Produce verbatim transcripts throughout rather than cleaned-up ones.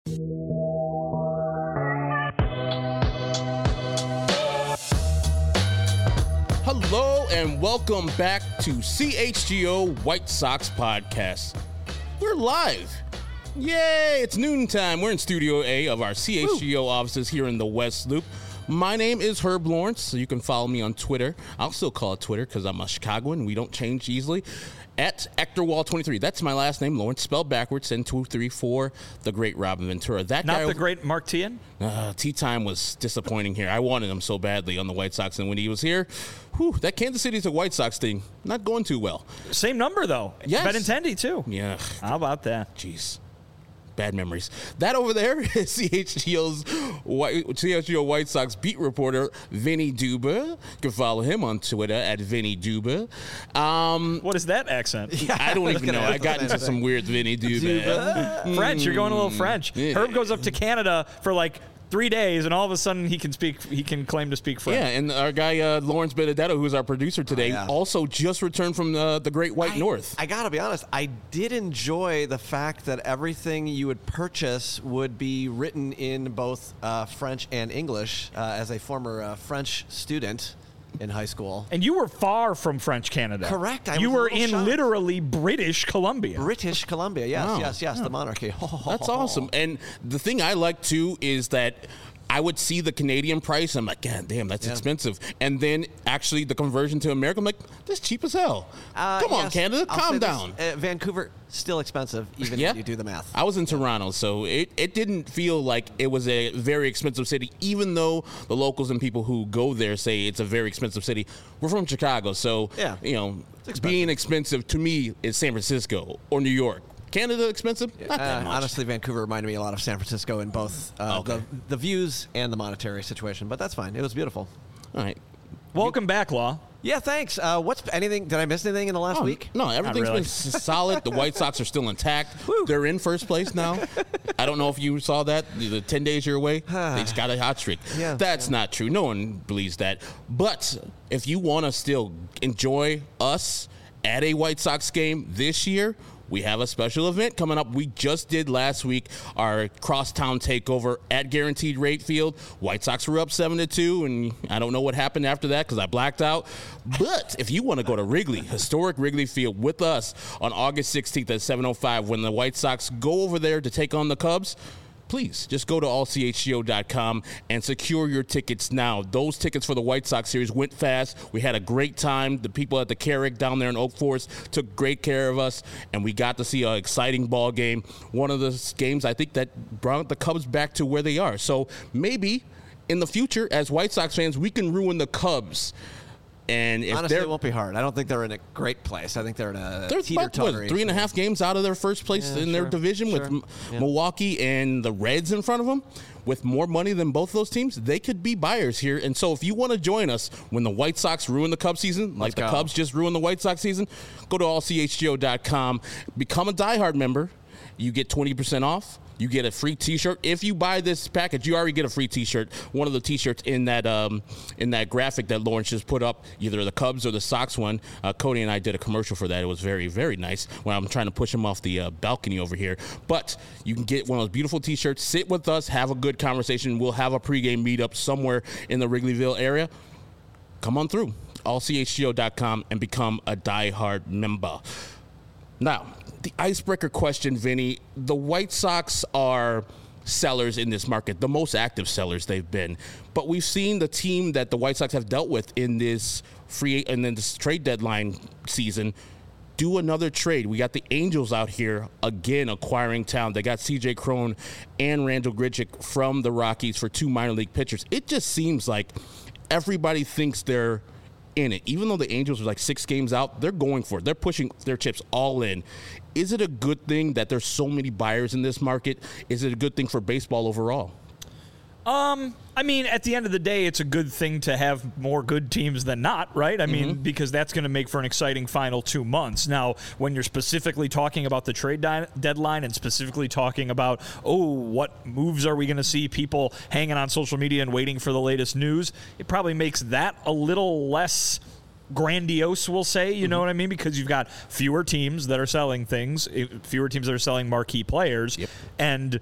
Hello and welcome back to C H G O White Sox Podcast. We're live. Yay, it's noontime. We're in Studio A of our C H G O Woo. offices here in the West Loop. My name is Herb Lawrence, so you can follow me on Twitter. I'll still call it Twitter because I'm a Chicagoan. We don't change easily. At Ectorwall twenty-three. That's my last name, Lawrence, spelled backwards, and two three four, the great Robin Ventura. That Not guy the over- great Mark Teahan? Uh, tea time was disappointing here. I wanted him so badly on the White Sox, and when he was here, whew, that Kansas City to White Sox thing, not going too well. Same number, though. Yes. Benintendi, too. Yeah. How about that? Jeez. Bad memories. That over there is C H G O's White, C H G O White Sox beat reporter Vinny Duba. You can follow him on Twitter at Vinny Duba. Um, what is that accent? Yeah, I don't I even gonna, know. I got into some weird Vinny Duba. Duba. French. You're going a little French. Yeah. Herb goes up to Canada for like three days, and all of a sudden he can speak. He can claim to speak French. Yeah, and our guy uh, Lawrence Benedetto, who's our producer today, oh, yeah. also just returned from the, the Great White I, North. I gotta be honest, I did enjoy the fact that everything you would purchase would be written in both uh, French and English. Uh, as a former uh, French student in high school, And you were far from French Canada. Correct. I you was a were little in shocked. literally British Columbia. British Columbia, yes, Wow. yes, yes, the monarchy. That's awesome. And the thing I like, too, is that I would see the Canadian price. I'm like, God damn, that's Yeah. expensive. And then actually the conversion to America, I'm like, that's cheap as hell. Uh, Come on, yes, Canada, I'll calm say this, down. uh, Vancouver, still expensive, even Yeah. when you do the math. I was in Toronto, so it, it didn't feel like it was a very expensive city, even though the locals and people who go there say it's a very expensive city. We're from Chicago, so, Yeah. you know, expensive. being expensive to me is San Francisco or New York. Canada expensive? Not that Uh, much. honestly, Vancouver reminded me a lot of San Francisco in both uh, Okay. the, the views and the monetary situation, but that's fine. It was beautiful. All right. Welcome back, Law. Yeah, thanks. Uh, what's anything? Did I miss anything in the last Oh, week? No, everything's really. been s- solid. The White Sox are still intact. They're in first place now. I don't know if you saw that. The ten days you're away, they just got a hot streak. Yeah, That's not true. No one believes that. But if you want to still enjoy us at a White Sox game this year, we have a special event coming up. We just did last week our crosstown takeover at Guaranteed Rate Field. White Sox were up seven to two, and I don't know what happened after that because I blacked out. But if you want to go to Wrigley, historic Wrigley Field, with us on August sixteenth at seven oh five when the White Sox go over there to take on the Cubs, please just go to all c h g o dot com and secure your tickets now. Those tickets for the White Sox series went fast. We had a great time. The people at the Carrick down there in Oak Forest took great care of us, and we got to see an exciting ball game. One of the games I think that brought the Cubs back to where they are. So maybe in the future, as White Sox fans, we can ruin the Cubs. And if Honestly, they're it won't be hard. I don't think they're in a great place. I think they're in a They're about, what, teeter-tottery. three and a half games out of their first place Yeah, in their sure, division sure, with M- yeah. Milwaukee and the Reds in front of them. With more money than both those teams, they could be buyers here. And so if you want to join us when the White Sox ruin the Cubs season, like Let's the go. Cubs just ruined the White Sox season, go to all c h g o dot com, become a diehard member. You get twenty percent off. You get a free T-shirt. If you buy this package, you already get a free T-shirt. One of the T-shirts in that um, in that graphic that Lawrence just put up, either the Cubs or the Sox one. Uh, Cody and I did a commercial for that. It was very, very nice when I'm trying to push him off the uh, balcony over here. But you can get one of those beautiful T-shirts, sit with us, have a good conversation. We'll have a pregame meetup somewhere in the Wrigleyville area. Come on through, all c h g o dot com, and become a diehard member. Now, the icebreaker question, Vinny. The White Sox are sellers in this market, the most active sellers they've been. But we've seen the team that the White Sox have dealt with in this free and then this trade deadline season do another trade. We got the Angels out here again acquiring talent. They got C J Cron and Randall Grichuk from the Rockies for two minor league pitchers. It just seems like everybody thinks they're in it. Even though the Angels are like six games out, they're going for it. They're pushing their chips all in. Is it a good thing that there's so many buyers in this market? Is it a good thing for baseball overall? Um, I mean, at the end of the day, it's a good thing to have more good teams than not, right? I mean, Mm-hmm. because that's going to make for an exciting final two months. Now, when you're specifically talking about the trade di- deadline and specifically talking about, oh, what moves are we going to see, people hanging on social media and waiting for the latest news, it probably makes that a little less grandiose, we'll say, you know what I mean? Because you've got fewer teams that are selling things, fewer teams that are selling marquee players, Yep. and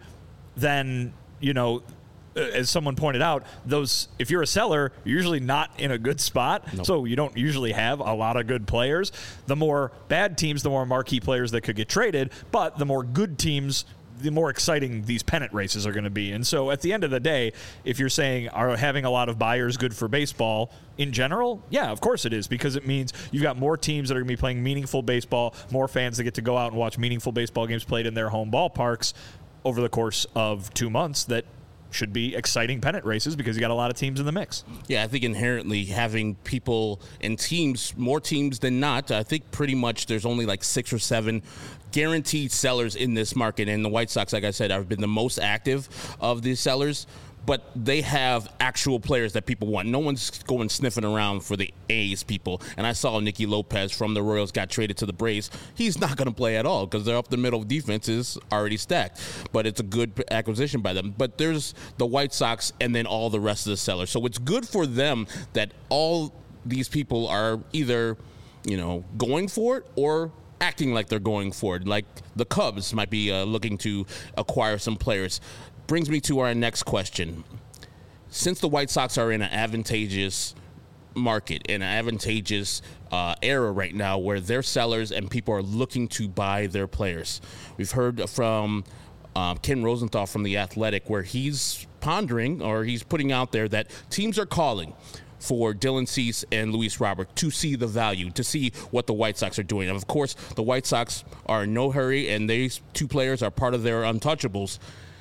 then, you know, as someone pointed out, those if you're a seller, you're usually not in a good spot. Nope. So you don't usually have a lot of good players. The more bad teams, the more marquee players that could get traded. But the more good teams, the more exciting these pennant races are going to be. And so at the end of the day, if you're saying, are having a lot of buyers good for baseball in general? Yeah, of course it is, because it means you've got more teams that are going to be playing meaningful baseball, more fans that get to go out and watch meaningful baseball games played in their home ballparks over the course of two months that should be exciting pennant races because you got a lot of teams in the mix. Yeah, I think inherently having people and teams, more teams than not, I think pretty much there's only like six or seven guaranteed sellers in this market. And the White Sox, like I said, have been the most active of these sellers. But they have actual players that people want. No one's going sniffing around for the A's people. And I saw Nicky Lopez from the Royals got traded to the Braves. He's not going to play at all because they're up the middle. Defense is already stacked. But it's a good acquisition by them. But there's the White Sox and then all the rest of the sellers. So it's good for them that all these people are either, you know, going for it or acting like they're going for it. Like the Cubs might be uh, looking to acquire some players. Brings me to our next question. Since the White Sox are in an advantageous market, in an advantageous uh, era right now where they're sellers and people are looking to buy their players, we've heard from um, Ken Rosenthal from The Athletic where he's pondering or he's putting out there that teams are calling for Dylan Cease and Luis Robert to see the value, to see what the White Sox are doing. And of course, the White Sox are in no hurry, and these two players are part of their untouchables.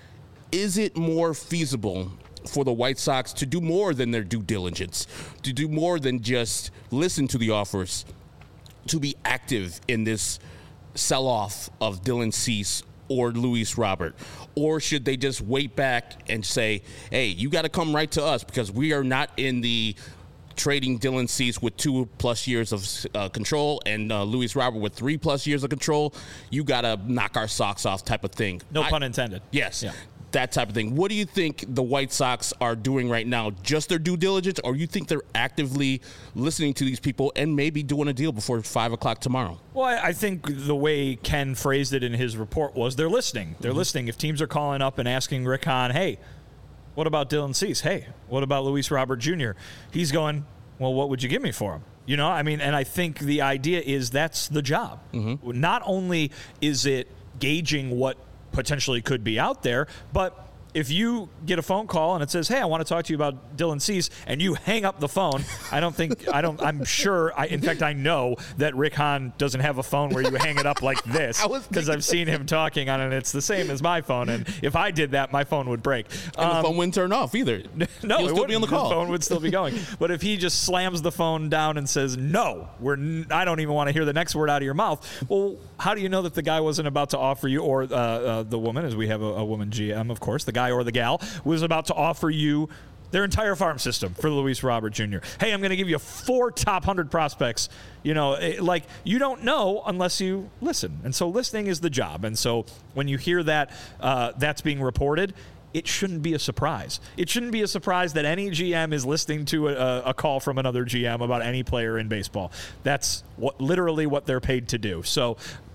Is it more feasible for the White Sox to do more than their due diligence, to do more than just listen to the offers, to be active in this sell-off of Dylan Cease or Luis Robert? Or should they just wait back and say, hey, you got to come right to us because we are not in the trading Dylan Cease with two plus years of uh, control and uh, Luis Robert with three plus years of control. You got to knock our socks off type of thing. No I, pun intended. Yes. Yeah. That type of thing. What do you think the White Sox are doing right now? Just their due diligence, or you think they're actively listening to these people and maybe doing a deal before five o'clock tomorrow? Well, I think the way Ken phrased it in his report was they're listening. They're mm-hmm. listening. If teams are calling up and asking Rick Hahn, hey, what about Dylan Cease? Hey, what about Luis Robert Junior? He's going, well, what would you give me for him? You know, I mean, and I think the idea is that's the job. Mm-hmm. Not only is it gauging what potentially could be out there, but if you get a phone call and it says, hey, I want to talk to you about Dylan Cease, and you hang up the phone, I don't think, I don't, I'm sure, I, in fact, I know that Rick Hahn doesn't have a phone where you hang it up like this, because I've seen him talking on it, and it's the same as my phone, and if I did that, my phone would break. And um, the phone wouldn't turn off either. No, You'll it still be on the call. The phone would still be going. But if he just slams the phone down and says, no, we're n- I don't even want to hear the next word out of your mouth, well, how do you know that the guy wasn't about to offer you, or uh, uh, the woman, as we have a, a woman G M, of course, the guy or the gal, was about to offer you their entire farm system for Luis Robert Junior Hey, I'm going to give you four top one hundred prospects. You know, it, like, you don't know unless you listen. And so listening is the job. And so when you hear that uh, that's being reported, it shouldn't be a surprise. It shouldn't be a surprise that any G M is listening to a, a call from another G M about any player in baseball. That's what literally what they're paid to do. So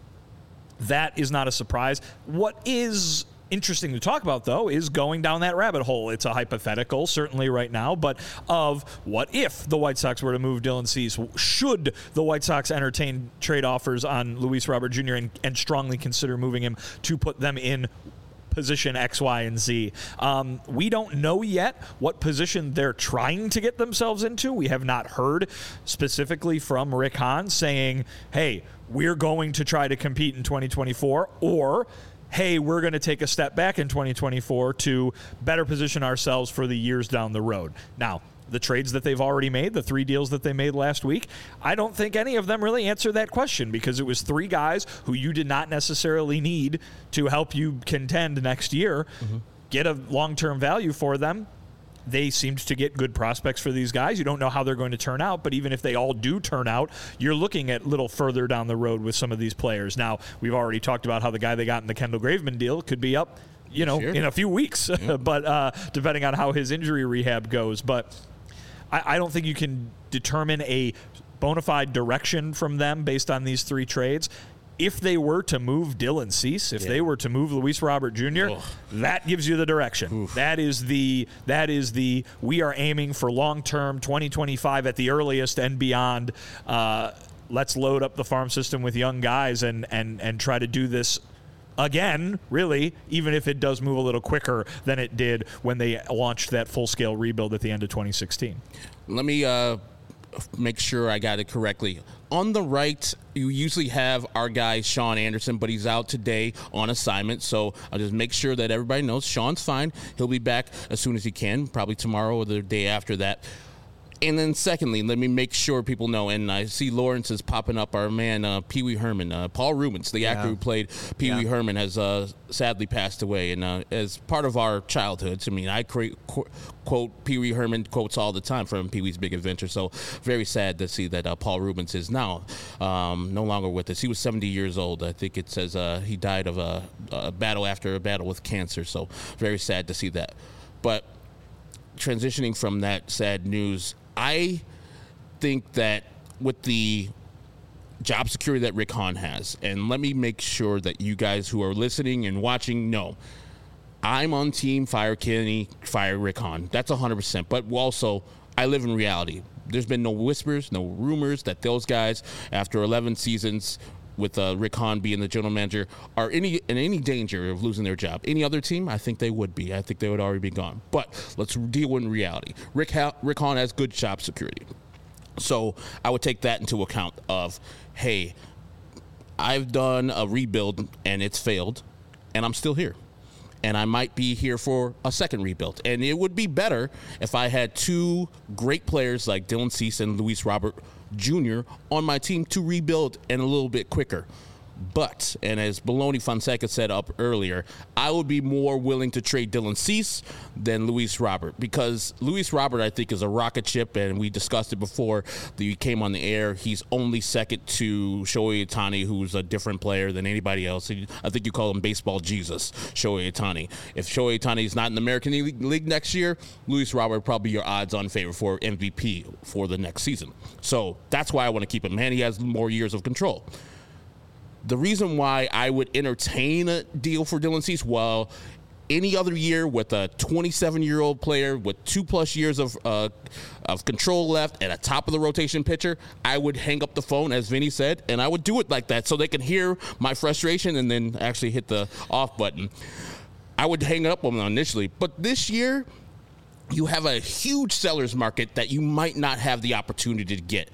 that is not a surprise. What is interesting to talk about, though, is going down that rabbit hole. It's a hypothetical, certainly right now, but of what if the White Sox were to move Dylan Cease? Should the White Sox entertain trade offers on Luis Robert Junior and, and strongly consider moving him to put them in position X, Y, and Z? Um, we don't know yet what position they're trying to get themselves into. We have not heard specifically from Rick Hahn saying, hey, we're going to try to compete in twenty twenty-four, or hey, we're going to take a step back in twenty twenty-four to better position ourselves for the years down the road. Now, the trades that they've already made, the three deals that they made last week, I don't think any of them really answer that question, because it was three guys who you did not necessarily need to help you contend next year. Mm-hmm. Get a long-term value for them. They seemed to get good prospects for these guys. You don't know how they're going to turn out, but even if they all do turn out, you're looking at a little further down the road with some of these players. Now, we've already talked about how the guy they got in the Kendall Graveman deal could be up, you know, sure. in a few weeks, yeah. but uh, depending on how his injury rehab goes. But I, I don't think you can determine a bona fide direction from them based on these three trades. if they were to move Dylan Cease, if Yeah. they were to move Luis Robert Junior, Ugh. that gives you the direction. Oof. That is the that is the we are aiming for long-term twenty twenty-five at the earliest and beyond. Uh, let's load up the farm system with young guys and and and try to do this again, really, even if it does move a little quicker than it did when they launched that full-scale rebuild at the end of twenty sixteen. Let me uh, make sure I got it correctly. On the right, you usually have our guy, Sean Anderson, but he's out today on assignment. So I'll just make sure that everybody knows Sean's fine. He'll be back as soon as he can, probably tomorrow or the day after that. And then secondly, let me make sure people know, and I see Lawrence is popping up, our man, uh, Pee Wee Herman. Uh, Paul Rubens, the actor Yeah. who played Pee Wee Yeah. Herman, has uh, sadly passed away. And uh, as part of our childhoods, I mean, I create, qu- quote Pee Wee Herman quotes all the time from Pee Wee's Big Adventure. So very sad to see that uh, Paul Rubens is now um, no longer with us. He was seventy years old. I think it says uh, he died of a, a battle after a battle with cancer. So very sad to see that. But transitioning from that sad news, I think that with the job security that Rick Hahn has, and let me make sure that you guys who are listening and watching know, I'm on team fire Kenny, fire Rick Hahn. That's one hundred percent. But also, I live in reality. There's been no whispers, no rumors that those guys, after eleven seasons with uh, Rick Hahn being the general manager, are any in any danger of losing their job. Any other team, I think they would be. I think they would already be gone. But let's deal with reality. Rick, ha- Rick Hahn has good job security. So I would take that into account of, hey, I've done a rebuild and it's failed, and I'm still here. And I might be here for a second rebuild. And it would be better if I had two great players like Dylan Cease and Luis Robert Junior on my team to rebuild and a little bit quicker. But, and as Baloney Fonseca said up earlier, I would be more willing to trade Dylan Cease than Luis Robert, because Luis Robert, I think, is a rocket ship, and we discussed it before he came on the air. He's only second to Shohei Ohtani, who's a different player than anybody else. I think you call him baseball Jesus, Shohei Ohtani. If Shohei Ohtani is not in the American League next year, Luis Robert would probably be your odds-on favorite for M V P for the next season. So that's why I want to keep him, and he has more years of control. The reason why I would entertain a deal for Dylan Cease, well, any other year with a twenty-seven-year-old player with two-plus years of uh, of control left and a top-of-the-rotation pitcher, I would hang up the phone, as Vinny said, and I would do it like that so they can hear my frustration and then actually hit the off button. I would hang up on them initially. But this year, you have a huge seller's market that you might not have the opportunity to get.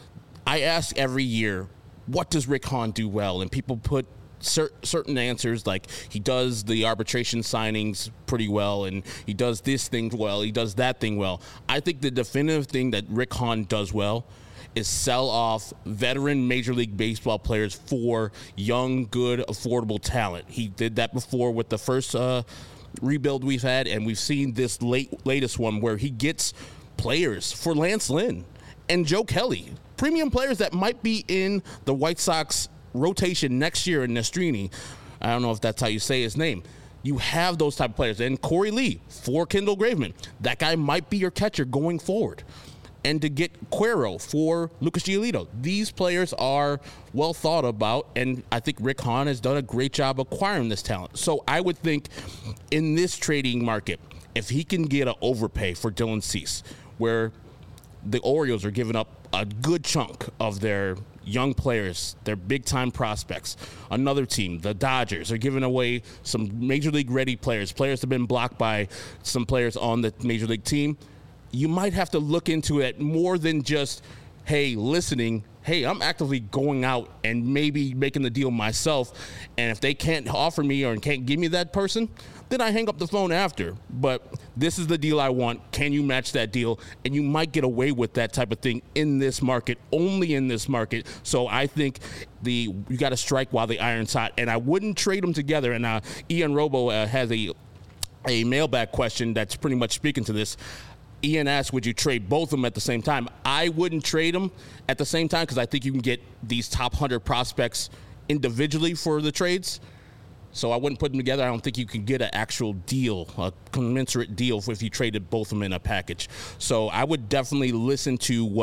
I ask every year, what does Rick Hahn do well? And people put cer- certain answers, like he does the arbitration signings pretty well, and he does this thing well, he does that thing well. I think the definitive thing that Rick Hahn does well is sell off veteran Major League Baseball players for young, good, affordable talent. He did that before with the first uh, rebuild we've had, and we've seen this late latest one where he gets players for Lance Lynn and Joe Kelly, premium players that might be in the White Sox rotation next year in Nestrini. I don't know if that's how you say his name. You have those type of players. And Corey Lee for Kendall Graveman. That guy might be your catcher going forward. And to get Cuero for Lucas Giolito. These players are well thought about, and I think Rick Hahn has done a great job acquiring this talent. So I would think in this trading market, if he can get an overpay for Dylan Cease, where the Orioles are giving up a good chunk of their young players, their big-time prospects. Another team, the Dodgers, are giving away some Major League-ready players, players that have been blocked by some players on the Major League team. You might have to look into it more than just, hey, listening. Hey, I'm actively going out and maybe making the deal myself, and if they can't offer me or can't give me that person, then I hang up the phone after. But this is the deal I want. Can you match that deal? And you might get away with that type of thing in this market, only in this market. So I think the you got to strike while the iron's hot, and I wouldn't trade them together. And uh, Ian Robo uh, has a a mailbag question that's pretty much speaking to this. Ian asked, would you trade both of them at the same time? I wouldn't trade them at the same time because I think you can get these top one hundred prospects individually for the trades. So I wouldn't put them together. I don't think you can get an actual deal, a commensurate deal if you traded both of them in a package. So I would definitely listen to what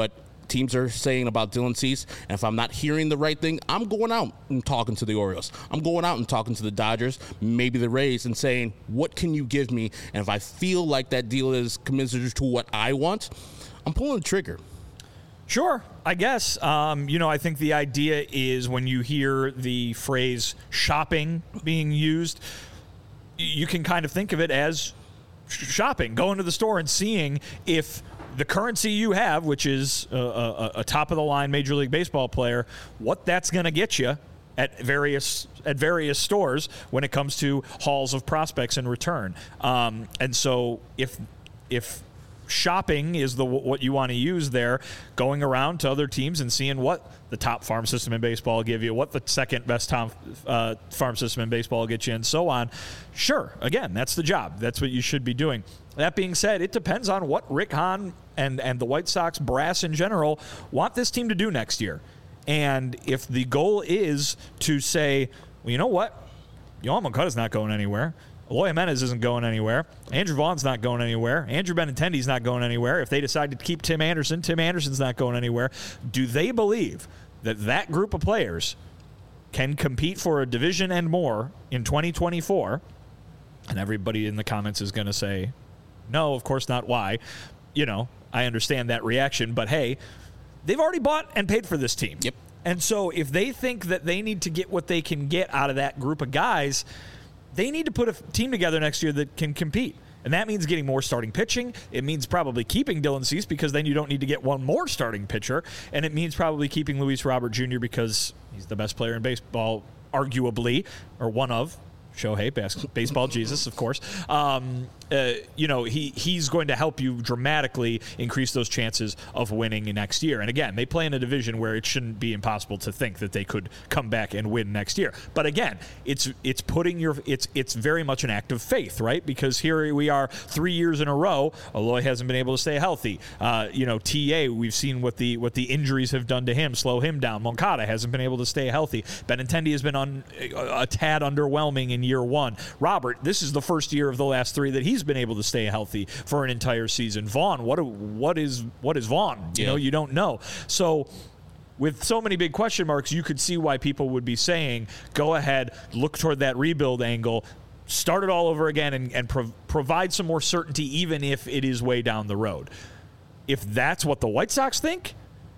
teams are saying about Dylan Cease, and if I'm not hearing the right thing, I'm going out and talking to the Orioles. I'm going out and talking to the Dodgers, maybe the Rays, and saying, what can you give me? And if I feel like that deal is commensurate to what I want, I'm pulling the trigger. Sure, I guess. Um, you know, I think the idea is when you hear the phrase shopping being used, you can kind of think of it as shopping, going to the store and seeing if the currency you have, which is a, a, a top-of-the-line Major League Baseball player, what that's going to get you at various at various stores when it comes to hauls of prospects in return. Um, and so if if shopping is the what you want to use there, going around to other teams and seeing what the top farm system in baseball will give you, what the second best tom, uh, farm system in baseball will get you, and so on. Sure, again, that's the job. That's what you should be doing. That being said, it depends on what Rick Hahn and, and the White Sox brass in general want this team to do next year. And if the goal is to say, well, you know what? Yohan Moncada's not going anywhere. Eloy Jimenez isn't going anywhere. Andrew Vaughn's not going anywhere. Andrew Benintendi's not going anywhere. If they decide to keep Tim Anderson, Tim Anderson's not going anywhere. Do they believe that that group of players can compete for a division and more in twenty twenty-four? And everybody in the comments is going to say, no, of course not. Why? You know, I understand that reaction, but hey, they've already bought and paid for this team. Yep. And so if they think that they need to get what they can get out of that group of guys, they need to put a team together next year that can compete. And that means getting more starting pitching. It means probably keeping Dylan Cease because then you don't need to get one more starting pitcher. And it means probably keeping Luis Robert Junior because he's the best player in baseball, arguably, or one of. Shohei, bas- baseball Jesus, of course. Um, uh, you know, he he's going to help you dramatically increase those chances of winning next year. And again, they play in a division where it shouldn't be impossible to think that they could come back and win next year. But again, it's it's putting your it's it's very much an act of faith, right? Because here we are, three years in a row. Eloy hasn't been able to stay healthy. Uh, you know, T A, we've seen what the what the injuries have done to him, slow him down. Moncada hasn't been able to stay healthy. Benintendi has been on a, a tad underwhelming in year one. Robert, this is the first year of the last three that he's been able to stay healthy for an entire season. Vaughn, what what is what is Vaughn? You yeah. know, you don't know. So with so many big question marks, you could see why people would be saying, go ahead, look toward that rebuild angle, start it all over again, and, and pro- provide some more certainty, even if it is way down the road. If that's what the White Sox think,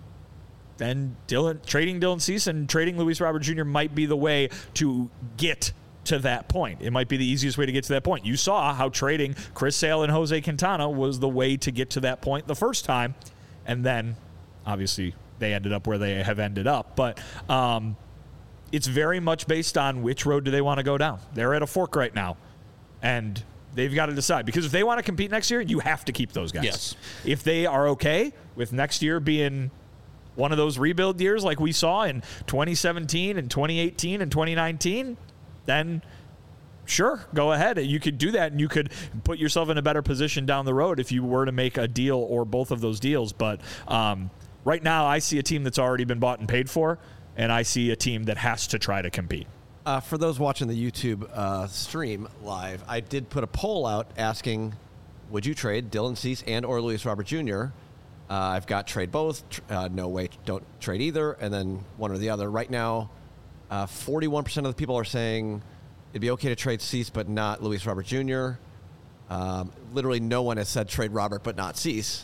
then Dylan, trading Dylan Cease and trading Luis Robert Junior might be the way to get to that point. It might be the easiest way to get to that point. You saw how trading Chris Sale and Jose Quintana was the way to get to that point the first time, and then obviously they ended up where they have ended up. But um, it's very much based on which road do they want to go down. They're at a fork right now, and they've got to decide. Because if they want to compete next year, you have to keep those guys. Yes. If they are okay with next year being one of those rebuild years like we saw in twenty seventeen and twenty eighteen and twenty nineteen, then sure, go ahead. You could do that, and you could put yourself in a better position down the road if you were to make a deal or both of those deals. But um, right now, I see a team that's already been bought and paid for, and I see a team that has to try to compete. Uh, for those watching the YouTube uh, stream live, I did put a poll out asking, would you trade Dylan Cease and or Luis Robert Junior? Uh, I've got trade both, tr- uh, no way, don't trade either, and then one or the other. Right now, Uh, forty-one percent of the people are saying it'd be okay to trade Cease, but not Luis Robert Junior Um, literally no one has said trade Robert, but not Cease.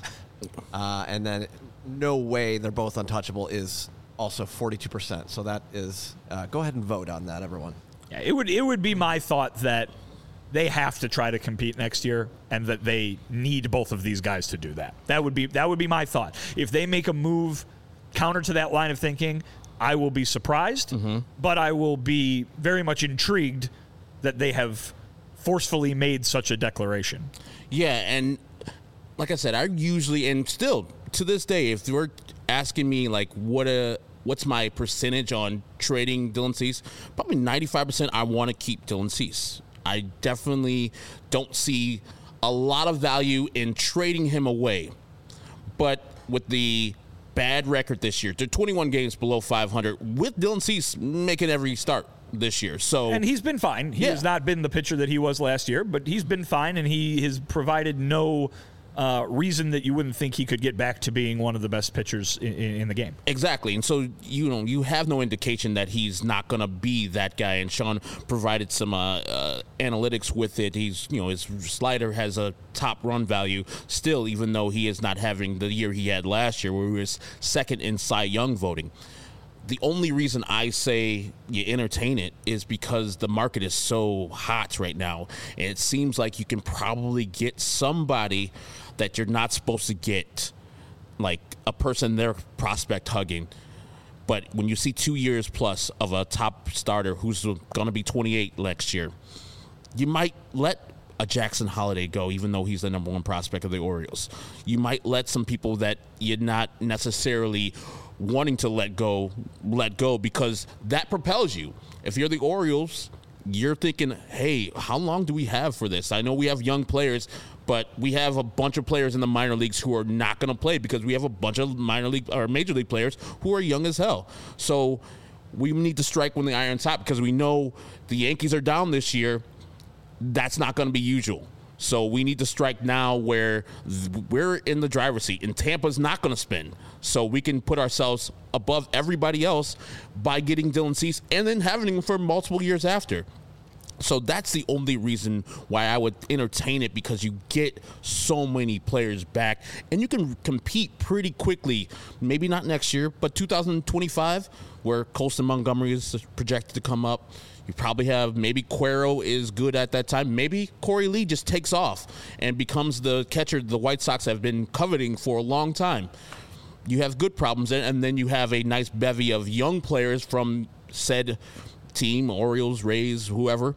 Uh, and then no way they're both untouchable is also forty-two percent. So that is, uh, go ahead and vote on that, everyone. Yeah, it would it would be my thought that they have to try to compete next year, and that they need both of these guys to do that. That would be that would be my thought. If they make a move counter to that line of thinking, I will be surprised, mm-hmm. but I will be very much intrigued that they have forcefully made such a declaration. Yeah, and like I said, I usually, and still to this day, if you're asking me like what a what's my percentage on trading Dylan Cease, probably ninety-five percent I want to keep Dylan Cease. I definitely don't see a lot of value in trading him away. But with the bad record this year, they're twenty-one games below five hundred with Dylan Cease making every start this year. So and he's been fine. He yeah. has not been the pitcher that he was last year, but he's been fine, and he has provided no uh, reason that you wouldn't think he could get back to being one of the best pitchers in, in the game. Exactly. And so, you know, you have no indication that he's not going to be that guy. And Sean provided some uh, uh, analytics with it. He's, you know, his slider has a top run value still, even though he is not having the year he had last year, where he was second in Cy Young voting. The only reason I say you entertain it is because the market is so hot right now. And it seems like you can probably get somebody that you're not supposed to get, like a person they're prospect hugging. But when you see two years plus of a top starter who's going to be twenty-eight next year, you might let a Jackson Holiday go, even though he's the number one prospect of the Orioles. You might let some people that you're not necessarily wanting to let go, let go, because that propels you. If you're the Orioles, you're thinking, hey, how long do we have for this? I know we have young players, but we have a bunch of players in the minor leagues who are not going to play because we have a bunch of minor league or major league players who are young as hell. So we need to strike when the iron's hot, because we know the Yankees are down this year. That's not going to be usual. So we need to strike now where we're in the driver's seat, and Tampa's not going to spin. So we can put ourselves above everybody else by getting Dylan Cease and then having him for multiple years after. So that's the only reason why I would entertain it, because you get so many players back and you can compete pretty quickly. Maybe not next year, but two thousand twenty-five, where Colston Montgomery is projected to come up. You probably have, maybe Cuero is good at that time. Maybe Corey Lee just takes off and becomes the catcher the White Sox have been coveting for a long time. You have good problems, and then you have a nice bevy of young players from said team, Orioles, Rays, whoever.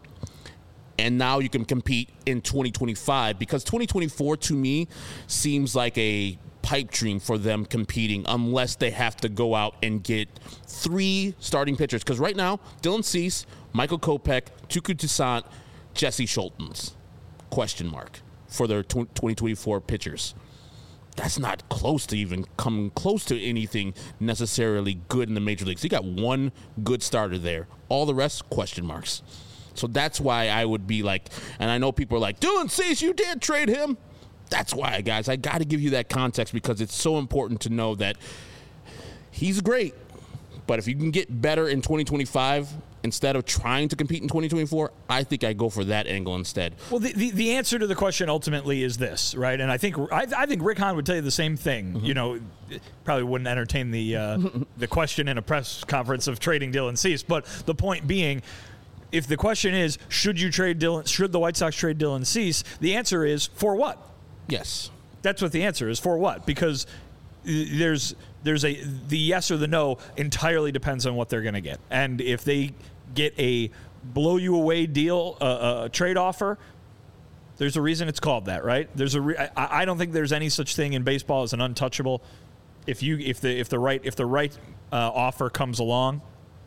And now you can compete in twenty twenty-five, because twenty twenty-four to me seems like a pipe dream for them competing, unless they have to go out and get three starting pitchers. Because right now, Dylan Cease, Michael Kopech, Tuku Toussaint, Jesse Schultens, question mark, for their twenty twenty-four pitchers. That's not close to even coming close to anything necessarily good in the major leagues. You got one good starter there. All the rest, question marks. So that's why I would be like, and I know people are like, Dylan Cease, you did trade him. That's why, guys, I got to give you that context, because it's so important to know that he's great. But if you can get better in twenty twenty-five instead of trying to compete in twenty twenty-four, I think I go for that angle instead. Well, the, the, the answer to the question ultimately is this, right? And I think I, I think Rick Hahn would tell you the same thing. Mm-hmm. You know, probably wouldn't entertain the uh, the question in a press conference of trading Dylan Cease. But the point being, if the question is, should you trade Dylan? Should the White Sox trade Dylan Cease? The answer is, for what? Yes. That's what the answer is. For what? Because there's there's a the yes or the no entirely depends on what they're going to get. And if they get a blow you away deal, uh, a trade offer, there's a reason it's called that, right? There's a re- I, I don't think there's any such thing in baseball as an untouchable. If you if the if the right if the right uh, offer comes along,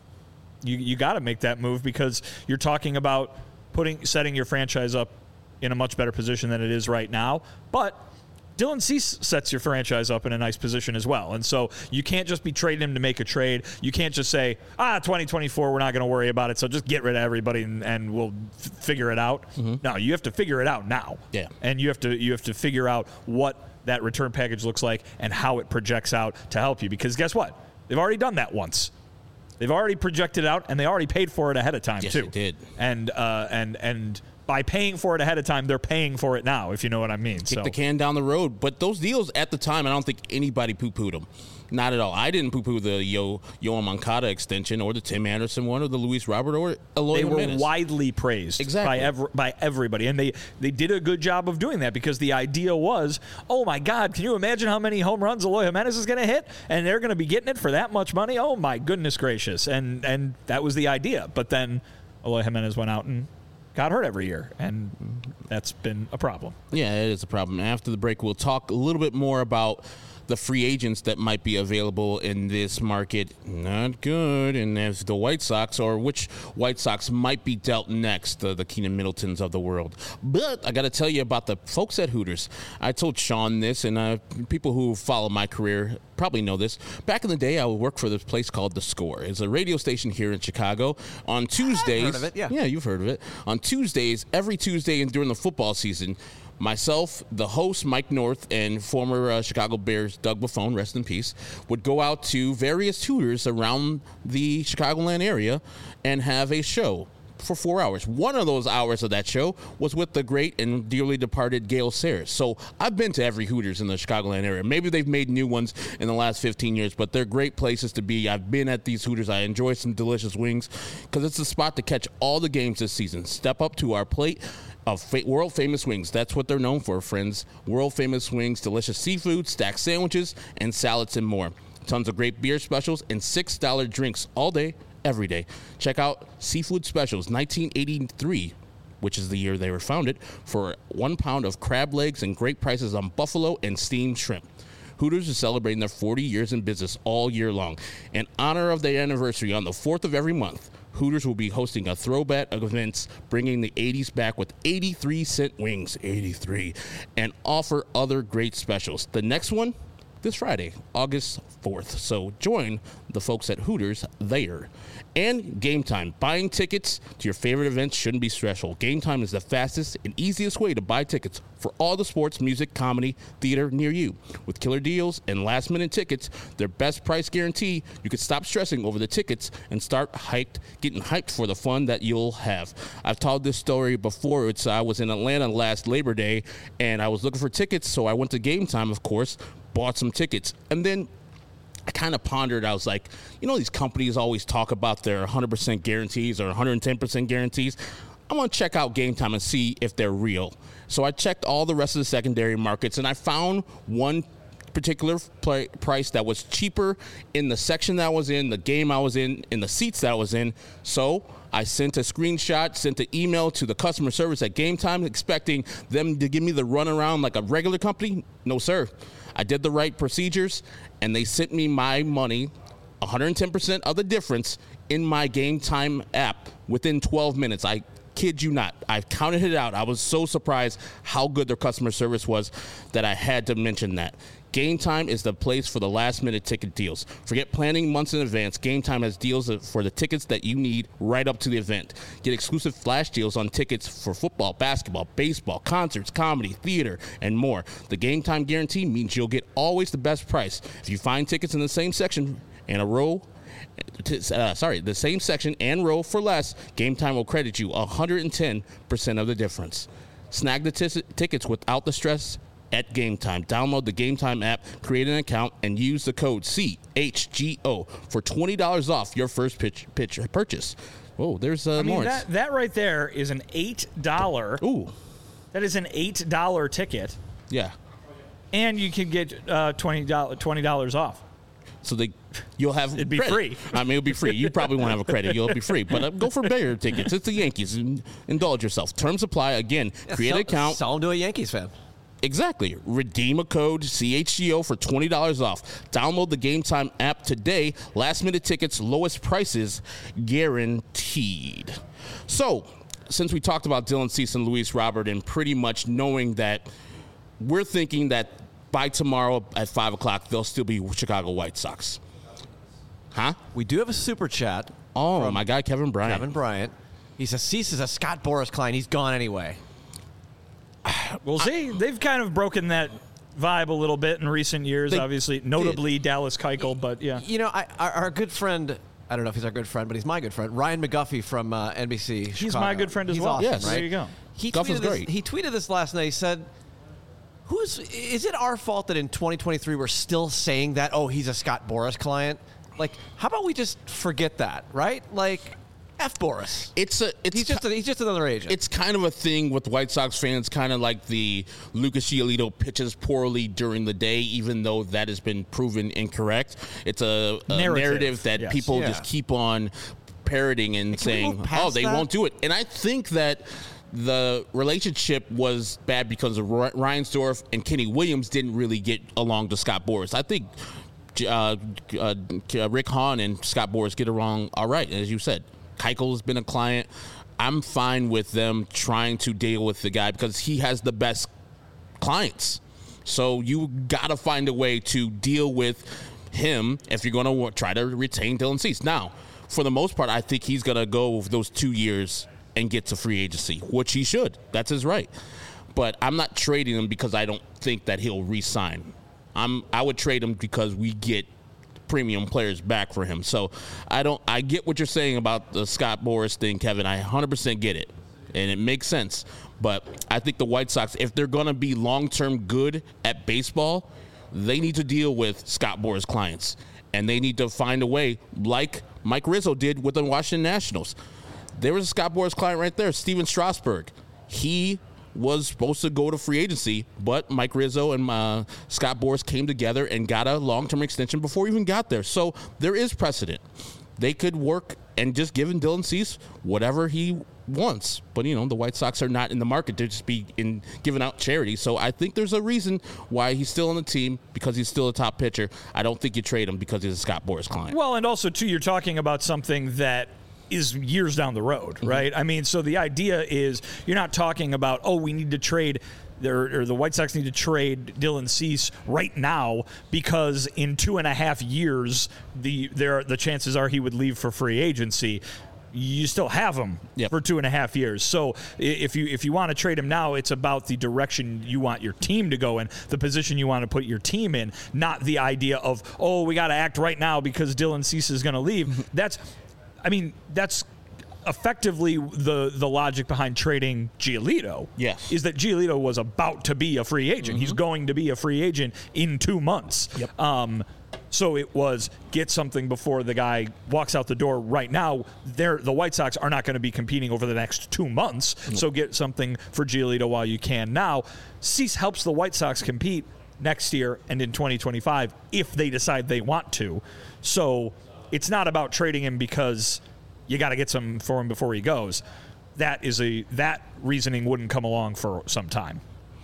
you you got to make that move, because you're talking about putting setting your franchise up in a much better position than it is right now. But Dylan Cease sets your franchise up in a nice position as well. And so you can't just be trading him to make a trade. You can't just say, ah, twenty twenty-four, we're not going to worry about it, so just get rid of everybody and, and we'll f- figure it out. Mm-hmm. No, you have to figure it out now. Yeah. And you have to you have to figure out what that return package looks like and how it projects out to help you. Because guess what? They've already done that once. They've already projected out, and they already paid for it ahead of time, yes, too. Yes, they did. And, uh, and, and by paying for it ahead of time, they're paying for it now, if you know what I mean. Kick so. the can down the road. But those deals at the time, I don't think anybody poo-pooed them. Not at all. I didn't poo-poo the Yo Yoan Moncada extension, or the Tim Anderson one, or the Luis Robert, or Eloy They Jimenez. were widely praised exactly. by ev- by everybody, and they, they did a good job of doing that, because the idea was, oh my God, can you imagine how many home runs Eloy Jimenez is going to hit, and they're going to be getting it for that much money? Oh my goodness gracious! And and that was the idea. But then Eloy Jimenez went out and got hurt every year, and that's been a problem. Yeah, it is a problem. After the break, we'll talk a little bit more about the free agents that might be available in this market. Not good. And if the White Sox, or which White Sox might be dealt next, uh, the Keenan Middletons of the world. But I got to tell you about the folks at Hooters. I told Sean this, and uh, people who follow my career probably know this. Back in the day, I would work for this place called The Score. It's a radio station here in Chicago. On Tuesdays, I've heard of it, yeah. Yeah, you've heard of it. On Tuesdays, every Tuesday and during the football season, myself, the host, Mike North, and former uh, Chicago Bears Doug Buffone, rest in peace, would go out to various Hooters around the Chicagoland area and have a show for four hours. One of those hours of that show was with the great and dearly departed Gale Sayers. So I've been to every Hooters in the Chicagoland area. Maybe they've made new ones in the last fifteen years, but they're great places to be. I've been at these Hooters. I enjoy some delicious wings because it's a spot to catch all the games this season. Step up to our plate of fa- world famous wings. That's what they're known for, friends. World famous wings, delicious seafood, stacked sandwiches, and salads and more. Tons of great beer specials and six dollar drinks all day, every day. Check out Seafood Specials nineteen eighty-three, which is the year they were founded, for one pound of crab legs and great prices on buffalo and steamed shrimp. Hooters is celebrating their forty years in business all year long. In honor of their anniversary on the fourth of every month, Hooters will be hosting a throwback of events, bringing the eighties back with eighty-three cent wings, eighty-three, and offer other great specials. The next one, this Friday, August fourth. So join the folks at Hooters there. And Game Time. Buying tickets to your favorite events shouldn't be stressful. Game Time is the fastest and easiest way to buy tickets for all the sports, music, comedy, theater near you. With killer deals and last-minute tickets, their best price guarantee, you can stop stressing over the tickets and start hyped, getting hyped for the fun that you'll have. I've told this story before. It's I was in Atlanta last Labor Day, and I was looking for tickets, so I went to Game Time, of course, bought some tickets, and then I kind of pondered. I was like, you know, these companies always talk about their one hundred percent guarantees or one hundred ten percent guarantees. I'm going to check out Game Time and see if they're real. So I checked all the rest of the secondary markets, and I found one particular play, price that was cheaper in the section that I was in, the game I was in, in the seats that I was in. So I sent a screenshot, sent an email to the customer service at Game Time, expecting them to give me the runaround like a regular company. No, sir. I did the right procedures, and they sent me my money, one hundred ten percent of the difference, in my Game Time app within twelve minutes. I kid you not. I counted it out. I was so surprised how good their customer service was that I had to mention that. Game Time is the place for the last-minute ticket deals. Forget planning months in advance. Game Time has deals for the tickets that you need right up to the event. Get exclusive flash deals on tickets for football, basketball, baseball, concerts, comedy, theater, and more. The Game Time guarantee means you'll get always the best price. If you find tickets in the same section in a row, uh, sorry, the same section and row for less, Game Time will credit you one hundred ten percent of the difference. Snag the t- tickets without the stress at Game Time. Download the Game Time app, create an account, and use the code C H G O for twenty dollars off your first pitch, pitch purchase. Whoa, there's uh, I mean, Lawrence. that, that right there is an eight dollar. Ooh. That is an eight dollar ticket. Yeah. And you can get uh, twenty dollars twenty dollars off. So they, you'll have It'd be credit. free. I mean, it'll be free. You probably won't have a credit. You'll be free. But uh, go for bigger tickets. It's the Yankees. Indulge yourself. Terms apply. Again, Yeah, create sell, an account. Sell them to a Yankees fan. Exactly. Redeem a code C H G O for twenty dollars off. Download the Game Time app today. Last minute tickets, lowest prices guaranteed. So, since we talked about Dylan Cease and Luis Robert, and pretty much knowing that we're thinking that by tomorrow at five o'clock, they'll still be Chicago White Sox. Huh? We do have a super chat. Oh, from my guy, Kevin Bryant. Kevin Bryant. He says, Cease is a Scott Boras client. He's gone anyway. We'll see. They've kind of broken that vibe a little bit in recent years, They obviously. Notably Dallas Keuchel, but yeah. You know, I, our, our good friend, I don't know if he's our good friend, but he's my good friend, Ryan McGuffey from uh, N B C He's Chicago. my good friend as He's well. Awesome, Yes. right? There you go. He Guff is tweeted, this, great. he tweeted this last night. He said, "Who's is it our fault that in twenty twenty-three we're still saying that, oh, he's a Scott Boras client? Like, how about we just forget that, right? Like, F Boras. It's a. It's He's just, a, he's just another agent. It's kind of a thing with White Sox fans, kind of like the Lucas Giolito pitches poorly during the day, even though that has been proven incorrect. It's a, a narrative. Narrative, that yes. people Yeah. just keep on parroting and we saying, move past oh, they that? won't do it. And I think that the relationship was bad because of Ry- Reinsdorf and Kenny Williams didn't really get along to Scott Boras. I think uh, uh, Rick Hahn and Scott Boras get along all right, as you said. Keuchel has been a client. I'm fine with them trying to deal with the guy because he has the best clients. So you got to find a way to deal with him if you're going to try to retain Dylan Cease. Now, for the most part, I think he's going to go those two years and get to free agency, which he should. That's his right. but I'm not trading him because I don't think that he'll re-sign. I'm I would trade him because we get premium players back for him. So I don't I get what you're saying about the Scott Boras thing, Kevin. I one hundred percent get it, and it makes sense. But I think the White Sox, if they're going to be long-term good at baseball, they need to deal with Scott Boras clients, and they need to find a way, like Mike Rizzo did with the Washington Nationals. There was a Scott Boras client right there, Steven Strasburg. He was supposed to go to free agency, but Mike Rizzo and uh, Scott Boras came together and got a long-term extension before he even got there. So there is precedent. They could work and just give Dylan Cease whatever he wants. But, you know, the White Sox are not in the market to just be in giving out charity. So I think there's a reason why he's still on the team, because he's still a top pitcher. I don't think you trade him because he's a Scott Boras client. Well, and also, too, you're talking about something that is years down the road, right? Mm-hmm. I mean, so the idea is you're not talking about, oh, we need to trade There, or the White Sox need to trade Dylan Cease right now because in two and a half years, the there the chances are he would leave for free agency. You still have him yep. for two and a half years. So if you if you want to trade him now, it's about the direction you want your team to go in, the position you want to put your team in, not the idea of, oh, we got to act right now because Dylan Cease is going to leave. That's, I mean, that's effectively the the logic behind trading Giolito. Yes. Is that Giolito was about to be a free agent. Mm-hmm. He's going to be a free agent in two months. Yep. Um, so it was get something before the guy walks out the door right now. They're, the White Sox are not going to be competing over the next two months. Mm-hmm. So get something for Giolito while you can now. Cease helps the White Sox compete next year and in twenty twenty-five if they decide they want to. So it's not about trading him because you got to get some for him before he goes. That is a that reasoning wouldn't come along for some time.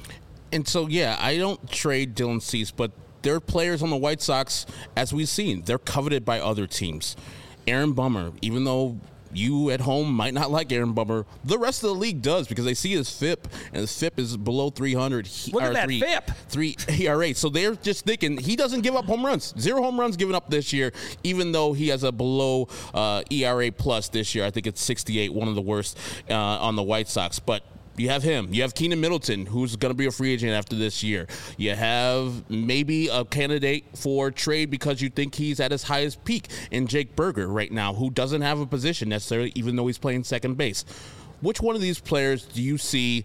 And so, yeah, I don't trade Dylan Cease, but there are players on the White Sox, as we've seen, they're coveted by other teams. Aaron Bummer, even though you at home might not like Aaron Bummer, the rest of the league does, because they see his F I P, and his F I P is below three hundred. Look at that three, F I P. Three E R A. So they're just thinking he doesn't give up home runs. Zero home runs given up this year, even though he has a below uh, E R A plus this year. I think it's sixty-eight, one of the worst uh, on the White Sox. But you have him. You have Keenan Middleton, who's going to be a free agent after this year. You have maybe a candidate for trade because you think he's at his highest peak in Jake Berger right now, who doesn't have a position necessarily, even though he's playing second base. Which one of these players do you see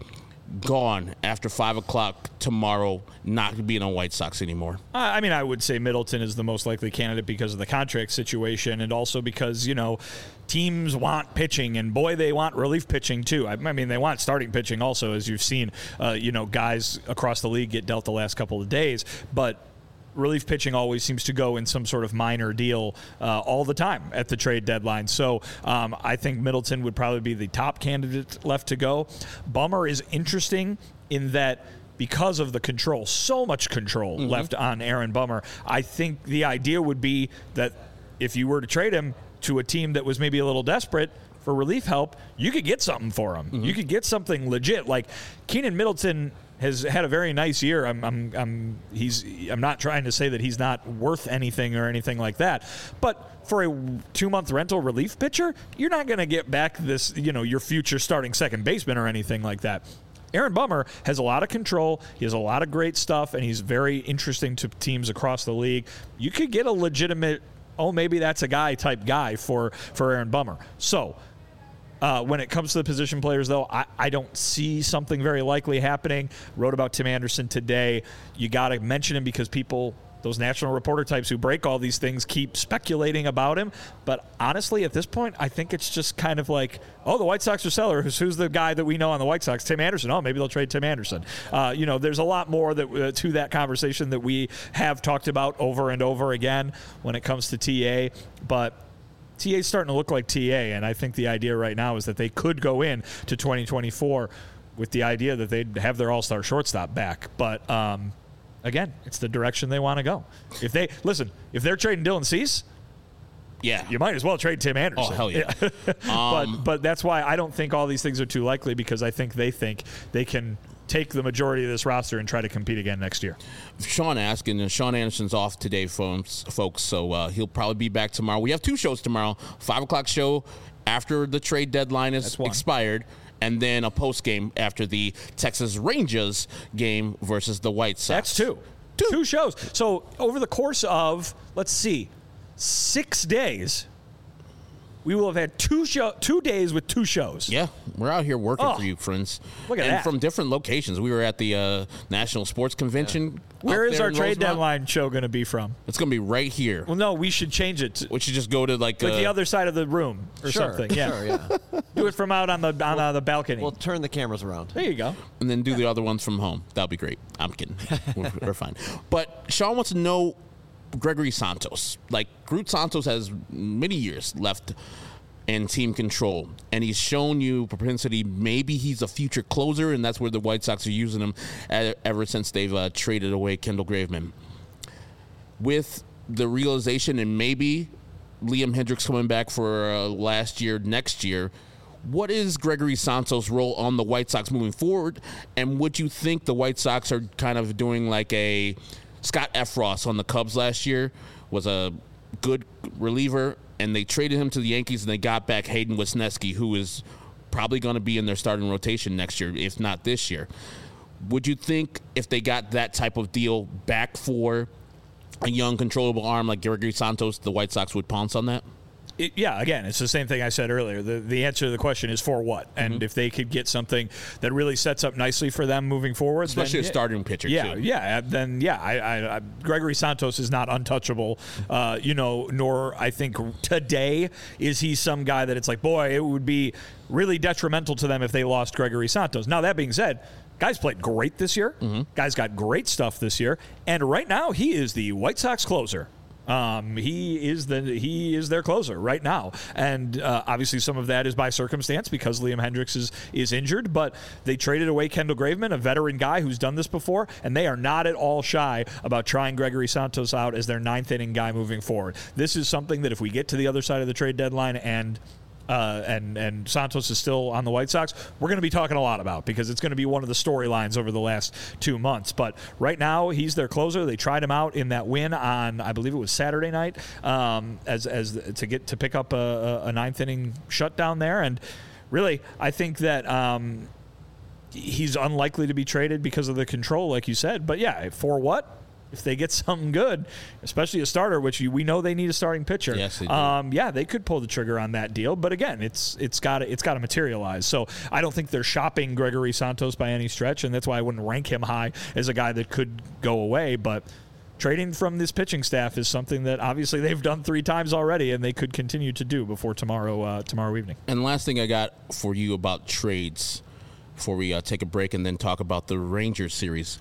gone after five o'clock tomorrow, not being on White Sox anymore? I mean, I would say Middleton is the most likely candidate because of the contract situation, and also because, you know, teams want pitching, and boy, they want relief pitching too. I mean, they want starting pitching also, as you've seen, uh, you know, guys across the league get dealt the last couple of days, but relief pitching always seems to go in some sort of minor deal uh, all the time at the trade deadline. So um, I think Middleton would probably be the top candidate left to go. Bummer is interesting in that because of the control, so much control mm-hmm. left on Aaron Bummer. I think the idea would be that if you were to trade him to a team that was maybe a little desperate for relief help, you could get something for him. Mm-hmm. You could get something legit. Like Keenan Middleton has had a very nice year. I'm, I'm, I'm, he's, I'm not trying to say that he's not worth anything or anything like that, but for a two-month rental relief pitcher, you're not going to get back this, you know, your future starting second baseman or anything like that. Aaron Bummer has a lot of control. He has a lot of great stuff, and he's very interesting to teams across the league. You could get a legitimate, oh, maybe that's a guy type guy for, for Aaron Bummer. So, Uh, when it comes to the position players, though, I, I don't see something very likely happening. Wrote about Tim Anderson today. You got to mention him because people, those national reporter types who break all these things, keep speculating about him. But honestly, at this point, I think it's just kind of like, oh, the White Sox are sellers. Who's the guy that we know on the White Sox? Tim Anderson. Oh, maybe they'll trade Tim Anderson. Uh, you know, there's a lot more that uh, to that conversation that we have talked about over and over again when it comes to T A. But T A's starting to look like T A, and I think the idea right now is that they could go in to twenty twenty-four with the idea that they'd have their all-star shortstop back. But, um, again, it's the direction they want to go. If they – listen, if they're trading Dylan Cease, yeah, you might as well trade Tim Anderson. Oh, hell yeah. but, um, but that's why I don't think all these things are too likely, because I think they think they can – take the majority of this roster and try to compete again next year. Sean asking, and Sean Anderson's off today, folks, folks so uh, he'll probably be back tomorrow. We have two shows tomorrow, five o'clock show after the trade deadline is expired, and then a post game after the Texas Rangers game versus the White Sox. That's two. Two. Two shows. So over the course of, let's see, six days, we will have had two show, two days with two shows. Yeah, we're out here working Oh, for you, friends. look at and that. from different locations. We were at the uh, National Sports Convention. Where up is there our in trade Rosemont. deadline show going to be from? It's going to be right here. Well, no, we should change it to We should just go to like, like uh, the other side of the room or Sure, something. Yeah. sure, yeah. Do it from out on the on uh, the balcony. We'll turn the cameras around. there you go. and then do the other ones from home. That'll be great. I'm kidding. we're, we're fine. But Sean wants to know Gregory Santos. Like, Groot Santos has many years left in team control, and he's shown you propensity. Maybe he's a future closer, and that's where the White Sox are using him uh, ever since they've uh, traded away Kendall Graveman. With the realization, and maybe Liam Hendriks coming back for uh, last year, next year, what is Gregory Santos' role on the White Sox moving forward? And would you think the White Sox are kind of doing like a Scott Efros on the Cubs last year, was a good reliever, and they traded him to the Yankees, and they got back Hayden Wesneski, who is probably going to be in their starting rotation next year, if not this year. Would you think if they got that type of deal back for a young, controllable arm like Gregory Santos, the White Sox would pounce on that? It, yeah, again, it's the same thing I said earlier. The the answer to the question is for what? And Mm-hmm. if they could get something that really sets up nicely for them moving forward, Especially then, a starting pitcher, yeah, too. Yeah, then yeah, I, I, I, Gregory Santos is not untouchable, uh, you know, nor I think today is he some guy that it's like, boy, it would be really detrimental to them if they lost Gregory Santos. Now, that being said, guy's played great this year. Mm-hmm. Guy's got great stuff this year. And right now, he is the White Sox closer. Um, he is the he is their closer right now, and uh, obviously some of that is by circumstance because Liam Hendriks is is injured. But they traded away Kendall Graveman, a veteran guy who's done this before, and they are not at all shy about trying Gregory Santos out as their ninth inning guy moving forward. This is something that if we get to the other side of the trade deadline and Uh, and and Santos is still on the White Sox, we're going to be talking a lot about because it's going to be one of the storylines over the last two months. But right now, he's their closer. They tried him out in that win on, I believe it was Saturday night, um, as as to get to pick up a, a ninth inning shutdown there. And really, I think that um, he's unlikely to be traded because of the control, like you said. But yeah, for what? If they get something good, especially a starter, which we know they need a starting pitcher. Yes, they do. Um, yeah, they could pull the trigger on that deal. But again, it's it's got to it's got to materialize. So I don't think they're shopping Gregory Santos by any stretch, and that's why I wouldn't rank him high as a guy that could go away. But trading from this pitching staff is something that obviously they've done three times already, and they could continue to do before tomorrow uh, tomorrow evening. And last thing I got for you about trades before we uh, take a break and then talk about the Rangers series.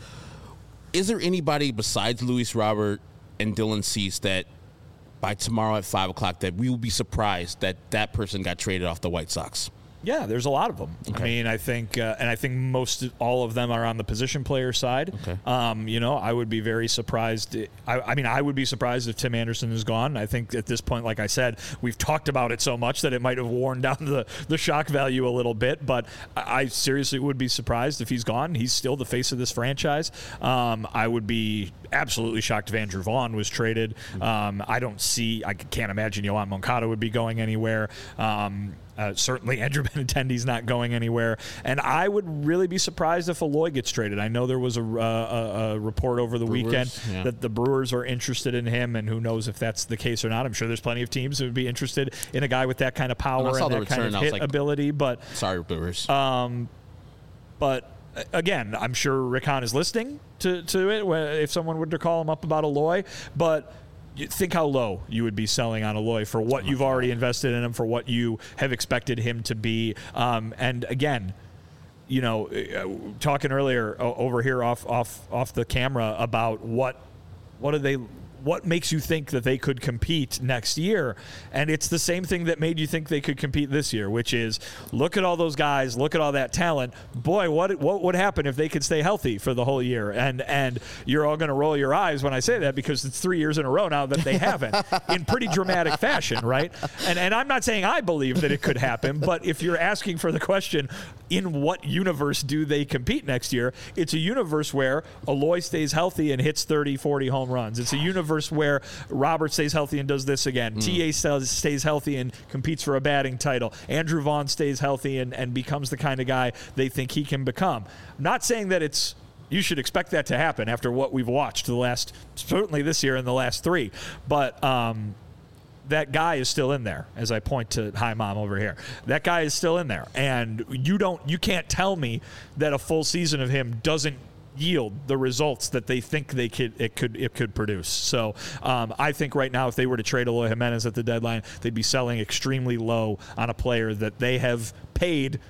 Is there anybody besides Luis Robert and Dylan Cease that by tomorrow at five o'clock that we will be surprised that that person got traded off the White Sox? Yeah, there's a lot of them. Okay. I mean, I think, uh, and I think most all of them are on the position player side. Okay. Um, you know, I would be very surprised. I, I mean, I would be surprised if Tim Anderson is gone. I think at this point, like I said, we've talked about it so much that it might have worn down the, the shock value a little bit. But I, I seriously would be surprised if he's gone. He's still the face of this franchise. Um, I would be absolutely shocked if Andrew Vaughn was traded. Um, I don't see, I can't imagine Yohan Moncada would be going anywhere. Um, Uh, certainly, Andrew Benintendi's not going anywhere. And I would really be surprised if Eloy gets traded. I know there was a, uh, a, a report over the Brewers, weekend yeah. that the Brewers are interested in him, and who knows if that's the case or not. I'm sure there's plenty of teams that would be interested in a guy with that kind of power When I saw and the that kind return, I of was hit like, ability. But Sorry, Brewers. um, but uh, again, I'm sure Rick Hahn is listening to, to it wh- if someone were to call him up about Eloy. But you think how low you would be selling on Eloy for what you've already invested in him, for what you have expected him to be. Um, and again, you know, uh, talking earlier uh, over here off off off the camera about what what do they what makes you think that they could compete next year? And it's the same thing that made you think they could compete this year, which is look at all those guys, look at all that talent. Boy, what what would happen if they could stay healthy for the whole year? And and you're all going to roll your eyes when I say that because it's three years in a row now that they haven't in pretty dramatic fashion, right? And and I'm not saying I believe that it could happen, but if you're asking for the question, in what universe do they compete next year? It's a universe where Eloy stays healthy and hits thirty, forty home runs. It's a universe where Robert stays healthy and does this again. Mm. T A stays, stays healthy and competes for a batting title. Andrew Vaughn stays healthy and, and becomes the kind of guy they think he can become. I'm not saying that it's you should expect that to happen after what we've watched the last, certainly this year and the last three. But um, that guy is still in there, as I point to Hi Mom over here. That guy is still in there. And you don't, you can't tell me that a full season of him doesn't yield the results that they think they could it could it could produce. So um, I think right now if they were to trade Eloy Jimenez at the deadline, they'd be selling extremely low on a player that they have paid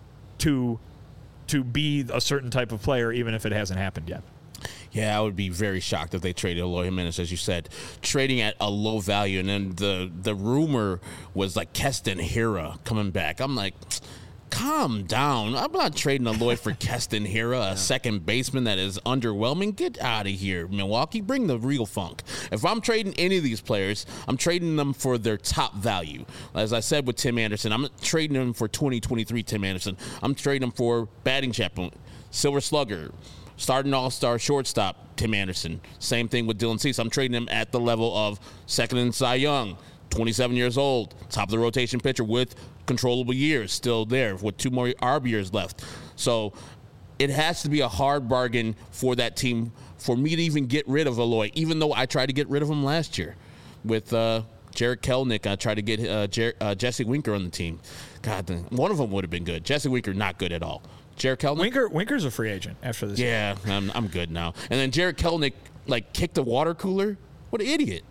to to be a certain type of player, even if it hasn't happened yet. Yeah, I would be very shocked if they traded Eloy Jimenez, as you said, trading at a low value. And then the, the rumor was like Keston Hiura coming back. I'm like, calm down. I'm not trading Eloy for Keston Hiura, a second baseman that is underwhelming. Get out of here, Milwaukee. Bring the real funk. If I'm trading any of these players, I'm trading them for their top value. As I said with Tim Anderson, I'm not trading them for twenty twenty-three Tim Anderson. I'm trading them for batting champion, Silver Slugger, starting all-star shortstop, Tim Anderson. Same thing with Dylan Cease. I'm trading him at the level of second in Cy Young, twenty-seven years old, top of the rotation pitcher with controllable years still there with two more A R B years left. So it has to be a hard bargain for that team for me to even get rid of Eloy, even though I tried to get rid of him last year with uh, Jared Kelenic. I tried to get uh, Jer- uh, Jesse Winker on the team. God, one of them would have been good. Jesse Winker, not good at all. Jared Kelenic? Winker, Winker's a free agent after this. Yeah, I'm, I'm good now. And then Jared Kelenic, like, kicked a water cooler. What an idiot.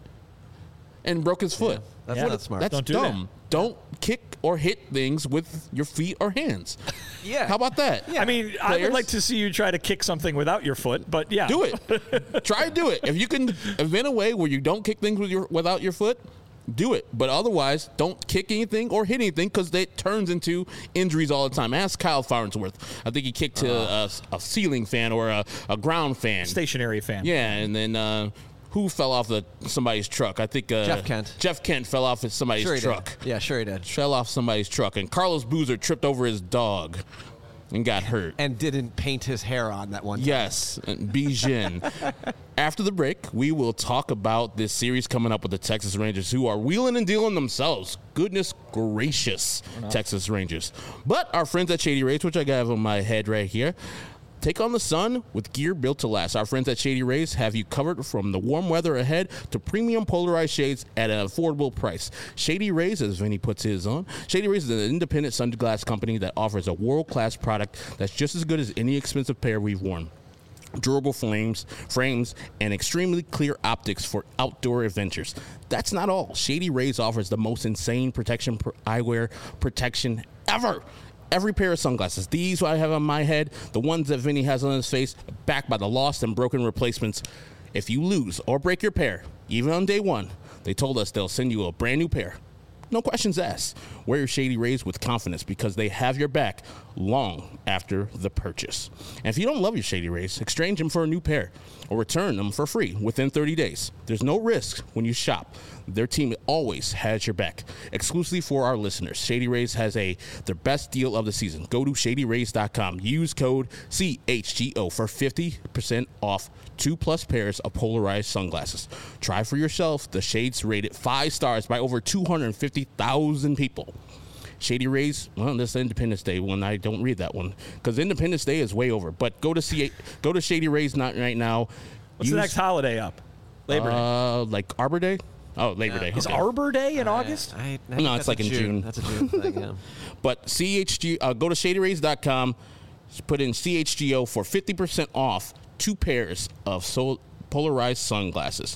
And broke his foot. Yeah, that's Yeah. not smart. That's Don't do dumb. that. Don't kick or hit things with your feet or hands. Yeah. How about that? I mean, I would Players? like to see you try to kick something without your foot, but yeah. Do it. Try to do it. If you can invent a way where you don't kick things with your without your foot, do it. But otherwise, don't kick anything or hit anything because it turns into injuries all the time. Ask Kyle Farnsworth. I think he kicked to a, a ceiling fan or a, a ground fan. Stationary fan. Yeah, and then uh, who fell off the somebody's truck? I think uh, Jeff Kent. Jeff Kent fell off of somebody's Sure he truck. did. Yeah, sure he did. Fell off somebody's truck, and Carlos Boozer tripped over his dog and got hurt. And didn't paint his hair on that one time. Yes, Bijin. After the break, we will talk about this series coming up with the Texas Rangers, who are wheeling and dealing themselves. Goodness gracious, Texas Rangers. But our friends at Shady Rays, which I got on my head right here, take on the sun with gear built to last. Our friends at Shady Rays have you covered from the warm weather ahead to premium polarized shades at an affordable price. Shady Rays, as Vinny puts his on, Shady Rays is an independent sunglass company that offers a world-class product that's just as good as any expensive pair we've worn. Durable frames, frames, and extremely clear optics for outdoor adventures. That's not all. Shady Rays offers the most insane protection pr- eyewear protection ever. Every pair of sunglasses, these I have on my head, the ones that Vinny has on his face, backed by the lost and broken replacements. If you lose or break your pair, even on day one, they told us they'll send you a brand new pair. No questions asked. Wear your Shady Rays with confidence because they have your back long after the purchase. And if you don't love your Shady Rays, exchange them for a new pair or return them for free within thirty days. There's no risk when you shop. Their team always has your back. Exclusively for our listeners, Shady Rays has a their best deal of the season. Go to shady rays dot com. Use code C H G O for fifty percent off two plus pairs of polarized sunglasses. Try for yourself the shades rated five stars by over two hundred fifty thousand people. Shady Rays, well, this is Independence Day one. I don't read that one because Independence Day is way over. But go to C- go to Shady Rays not right now. What's Use, the next holiday up? Labor Day. Uh, like Arbor Day? Oh, Labor Day. Is Okay. Arbor Day in August? I, I think No, it's that's like a in June. That's a June thing, yeah. But C H G, uh, go to shady rays dot com, put in C H G O for fifty percent off two pairs of sol- polarized sunglasses.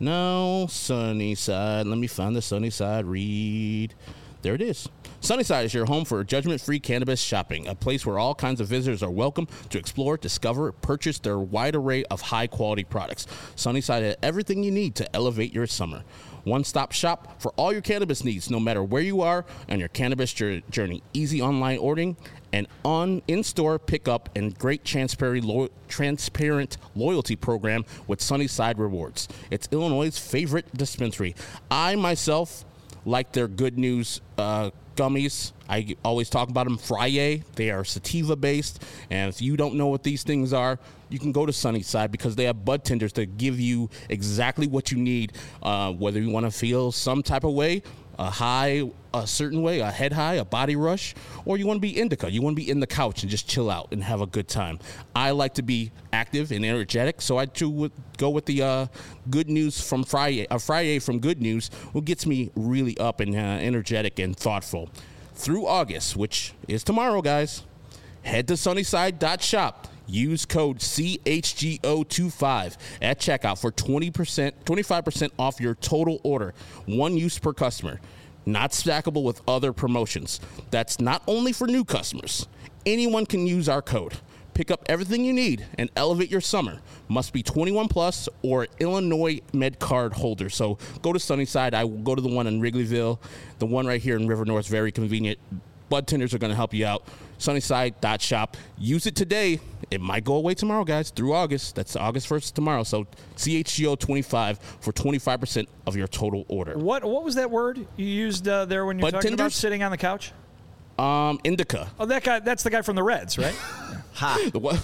No, sunny side. Let me find the sunny side read. There it is. Sunnyside is your home for judgment-free cannabis shopping, a place where all kinds of visitors are welcome to explore, discover, purchase their wide array of high-quality products. Sunnyside has everything you need to elevate your summer. One-stop shop for all your cannabis needs, no matter where you are on your cannabis journey. Easy online ordering and on in-store pickup and great transparent, lo- transparent loyalty program with Sunnyside Rewards. It's Illinois' favorite dispensary. I, myself, like their Good News uh, gummies. I always talk about them. Friday. They are sativa based, and if you don't know what these things are, you can go to Sunnyside because they have bud tenders that give you exactly what you need. Uh, whether you want to feel some type of way, a high, a certain way, a head high, a body rush, or you want to be indica. You want to be in the couch and just chill out and have a good time. I like to be active and energetic, so I too would go with the uh, good news from Friday. A Friday from Good News, what gets me really up and uh, energetic and thoughtful. Through August, which is tomorrow, guys, head to sunnyside dot shop. Use code C H G O twenty-five at checkout for twenty percent, twenty-five percent off your total order. One use per customer. Not stackable with other promotions. That's not only for new customers. Anyone can use our code. Pick up everything you need and elevate your summer. Must be twenty-one plus or Illinois Med Card holder. So go to Sunnyside. I will go to the one in Wrigleyville. The one right here in River North, very convenient. Bud tenders are going to help you out. sunnyside dot shop. Use it today. It might go away tomorrow, guys, through August. That's August first tomorrow. So C H G O twenty-five for twenty-five percent of your total order. What What was that word you used uh, there when you're Bud talking tenders? about sitting on the couch? Um, indica. Oh, that guy. That's the guy from the Reds, right? Ha. The what?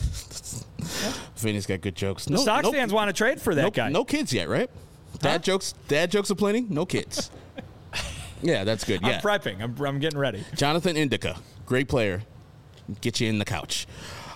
Vinny's got good jokes. The No, Sox no, fans want to trade for that no, guy. no kids yet, right? Dad Huh? jokes. Dad jokes aplenty. No kids. Yeah, that's good. Yeah. I'm prepping. I'm, I'm getting ready. Jonathan Indica, great player. Get you in the couch.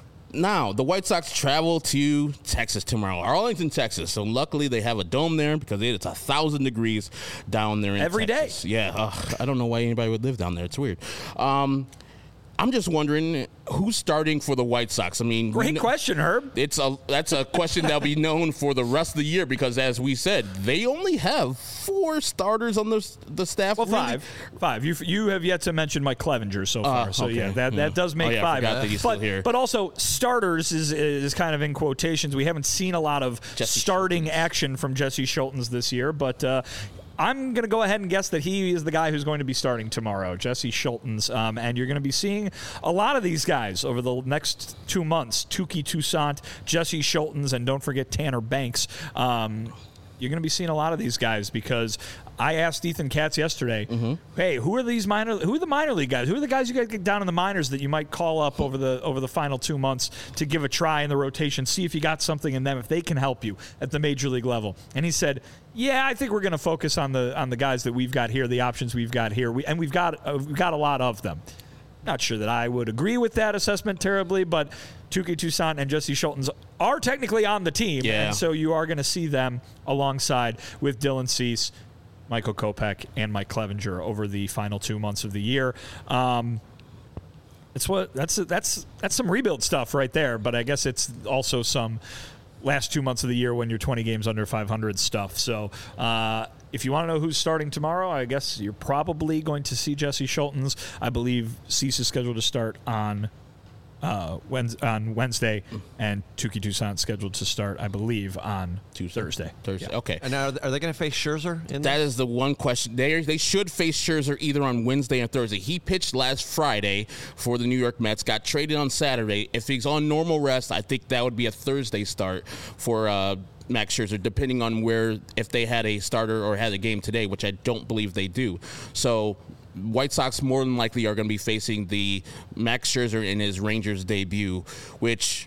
Now, the White Sox travel to Texas tomorrow, Arlington, Texas. So luckily they have a dome there because it's a thousand degrees down there in Every day. Texas. Yeah, ugh, I don't know why anybody would live down there. It's weird. Um, I'm just wondering who's starting for the White Sox. I mean, we Great kn- question, Herb. It's a that's a question that'll be known for the rest of the year because, as we said, they only have four starters on the the staff. Well, really. five. Five. You you have yet to mention Mike Clevenger so far. Uh, so, okay. yeah, that, that Yeah. does make Oh, yeah, I five. forgot that he's but, still here. but also, starters is is kind of in quotations. We haven't seen a lot of Jesse starting action from Jesse Schultens this year, but uh, I'm going to go ahead and guess that he is the guy who's going to be starting tomorrow, Jesse Schultens. Um, and you're going to be seeing a lot of these guys over the next two months. Touki Toussaint, Jesse Schultens, and don't forget Tanner Banks. Um, you're going to be seeing a lot of these guys because I asked Ethan Katz yesterday, Mm-hmm. hey, who are these minor who are the minor league guys? Who are the guys you got to get down in the minors that you might call up over the over the final two months to give a try in the rotation, see if you got something in them, if they can help you at the major league level? And he said, yeah, I think we're going to focus on the on the guys that we've got here, the options we've got here. We, and we've got uh, we've got a lot of them. Not sure that I would agree with that assessment terribly, but Touki Toussaint and Jesse Schultens are technically on the team, Yeah. and so you are going to see them alongside with Dylan Cease, Michael Kopech, and Mike Clevenger over the final two months of the year. Um, it's what that's that's that's some rebuild stuff right there, but I guess it's also some last two months of the year when you're twenty games under five hundred stuff. So uh, if you want to know who's starting tomorrow, I guess you're probably going to see Jesse Schultens. I believe Cease is scheduled to start on uh, Wednesday, on Wednesday, and Touki Toussaint scheduled to start, I believe, on Tuesday. Thursday. Thursday. Yeah. Okay. And are they, are they going to face Scherzer in That there? is the one question. They they should face Scherzer either on Wednesday or Thursday. He pitched last Friday for the New York Mets, got traded on Saturday. If he's on normal rest, I think that would be a Thursday start for uh, Max Scherzer, depending on where, if they had a starter or had a game today, which I don't believe they do. So White Sox more than likely are going to be facing the Max Scherzer in his Rangers debut, which...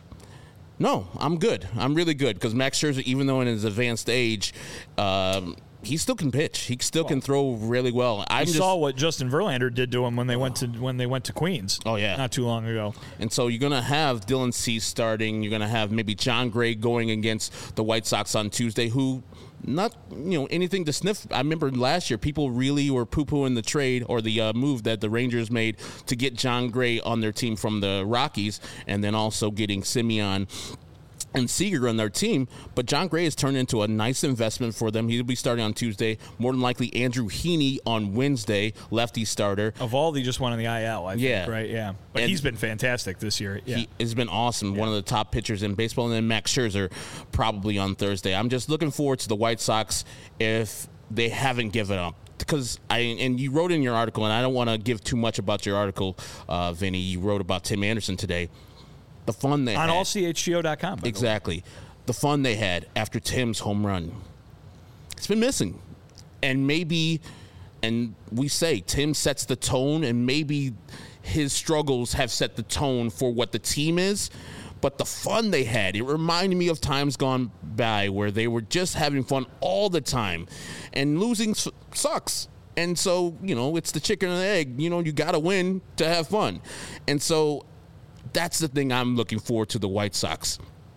No, I'm good. I'm really good because Max Scherzer, even though in his advanced age, um, he still can pitch. He still can throw really well. I I saw what Justin Verlander did to him when they went to when they went to Queens. Oh, yeah. not too long ago. And so you're going to have Dylan Cease starting. You're going to have maybe John Gray going against the White Sox on Tuesday, who not, you know, anything to sniff. I remember last year people really were poo-pooing the trade or the uh, move that the Rangers made to get John Gray on their team from the Rockies and then also getting Simeon and Seager on their team, but John Gray has turned into a nice investment for them. He'll be starting on Tuesday. More than likely, Andrew Heaney on Wednesday, lefty starter. Evaldi just went on the I L, I Yeah. think, right? Yeah. But And he's been fantastic this year. Yeah. He has been awesome, one of the top pitchers in baseball, and then Max Scherzer probably on Thursday. I'm just looking forward to the White Sox if they haven't given up. Because I and you wrote in your article, and I don't want to give too much about your article, uh, Vinny. You wrote about Tim Anderson today. The fun they on had. all C H G O dot com. Exactly. The fun they had after Tim's home run. It's been missing. And maybe And we say Tim sets the tone, and maybe his struggles have set the tone for what the team is. But the fun they had, it reminded me of times gone by where they were just having fun all the time. And losing s- sucks. And so, you know, it's the chicken and the egg. You know, you got to win to have fun. And so that's the thing I'm looking forward to the White Sox.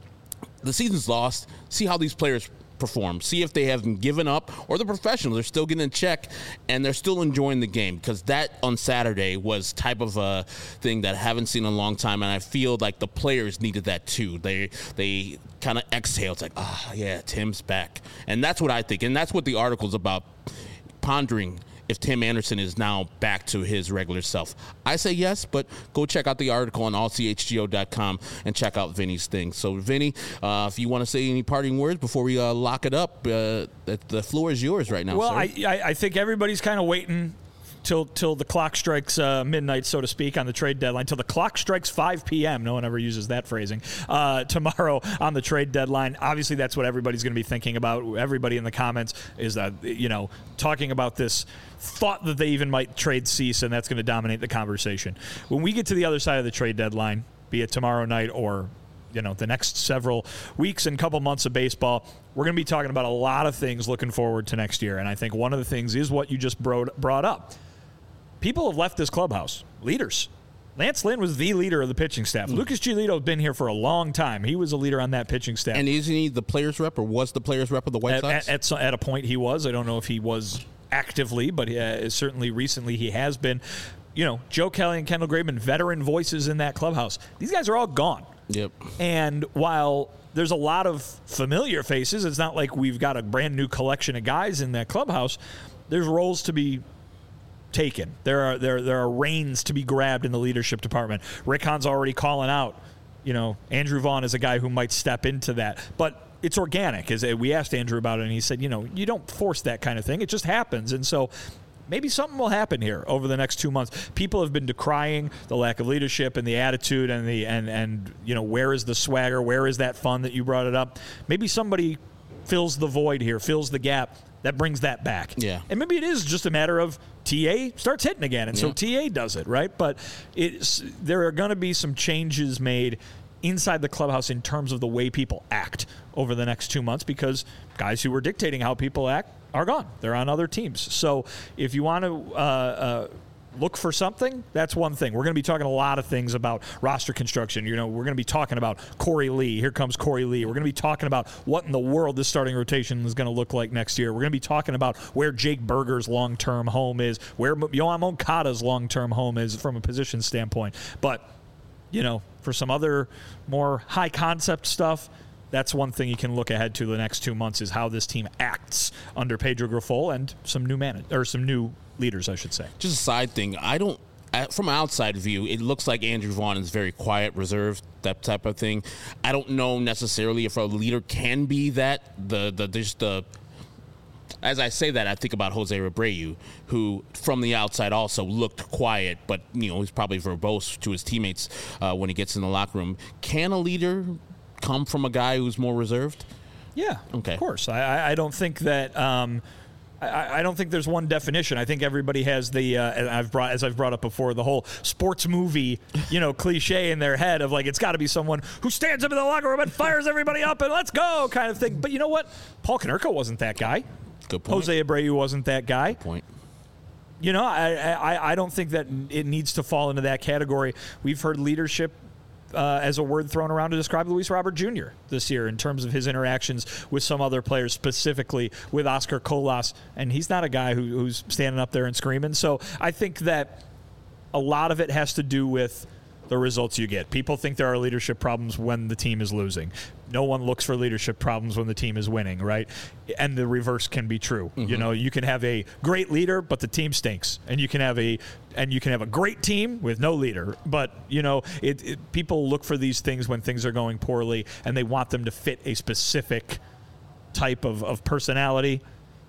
The season's lost. See how these players perform. See if they haven't given up, or the professionals are still getting in check and they're still enjoying the game, because that on Saturday was type of a thing that I haven't seen in a long time, and I feel like the players needed that too. They they kind of exhaled. It's like, ah, oh, yeah, Tim's back. And that's what I think, and that's what the article's about, pondering if Tim Anderson is now back to his regular self. I say yes, but go check out the article on all c h g o dot com and check out Vinny's thing. So, Vinny, uh, if you want to say any parting words before we uh, lock it up, uh, the, the floor is yours right now, well, sir. I, I I think everybody's kind of waiting till till the clock strikes uh, midnight, so to speak, on the trade deadline. Till the clock strikes five p.m. No one ever uses that phrasing. Uh, tomorrow on the trade deadline. Obviously, that's what everybody's going to be thinking about. Everybody in the comments is that, you know, talking about this thought that they even might trade Cease, and that's going to dominate the conversation. When we get to the other side of the trade deadline, be it tomorrow night or, you know, the next several weeks and couple months of baseball, we're going to be talking about a lot of things looking forward to next year. And I think one of the things is what you just brought, brought up. People have left this clubhouse. Leaders. Lance Lynn was the leader of the pitching staff. Mm. Lucas Giolito has been here for a long time. He was a leader on that pitching staff. And isn't he the players rep, or was the players rep of the White at, Sox? At, at, at a point he was. I don't know if he was actively, but uh, certainly recently he has been. You know, Joe Kelly and Kendall Graveman, veteran voices in that clubhouse. These guys are all gone. Yep. And while there's a lot of familiar faces, it's not like we've got a brand new collection of guys in that clubhouse. There's roles to be taken. There are there there are reins to be grabbed in the leadership department. Rick Hahn's already calling out, you know, Andrew Vaughn is a guy who might step into that. But it's organic. As we asked Andrew about it, and he said, you know, you don't force that kind of thing. It just happens. And so maybe something will happen here over the next two months. People have been decrying the lack of leadership and the attitude and the and and you know, where is the swagger? Where is that fun that you brought it up? Maybe somebody fills the void here, fills the gap. That brings that back. Yeah. And maybe it is just a matter of T A starts hitting again, and yeah. so T A does it, right? But it's, there are going to be some changes made inside the clubhouse in terms of the way people act over the next two months because guys who were dictating how people act are gone. They're on other teams. So if you want to uh, uh, look for something, that's one thing. We're going to be talking a lot of things about roster construction. You know, we're going to be talking about Corey Lee. Here comes Corey Lee. We're going to be talking about what in the world this starting rotation is going to look like next year. We're going to be talking about where Jake Berger's long-term home is, where Yoan Moncada's long-term home is from a position standpoint. But, you know, for some other more high-concept stuff, that's one thing you can look ahead to the next two months is how this team acts under Pedro Grifol and some new man or some new leaders, I should say. Just a side thing. I don't, from an outside view, it looks like Andrew Vaughn is very quiet, reserved, that type of thing. I don't know necessarily if a leader can be that. The the just the. As I say that, I think about Jose Abreu, who from the outside also looked quiet, but you know he's probably verbose to his teammates uh, when he gets in the locker room. Can a leader come from a guy who's more reserved? Yeah, okay. Of course. I, I don't think that. Um, I, I don't think there's one definition. I think everybody has the. Uh, and I've brought, as I've brought up before, the whole sports movie, you know, cliche in their head of like it's got to be someone who stands up in the locker room and fires everybody up and let's go kind of thing. But you know what? Paul Konerko wasn't that guy. Good point. Jose Abreu wasn't that guy. Good point. You know, I, I I don't think that it needs to fall into that category. We've heard leadership uh, as a word thrown around to describe Luis Robert Junior this year in terms of his interactions with some other players, specifically with Oscar Colas, and he's not a guy who, who's standing up there and screaming. So I think that a lot of it has to do with the results you get. People think there are leadership problems when the team is losing. No one looks for leadership problems when the team is winning, right? And the reverse can be true. Mm-hmm. You know, you can have a great leader, but the team stinks, and you can have a and you can have a great team with no leader. But you know, it, it, people look for these things when things are going poorly, and they want them to fit a specific type of, of personality.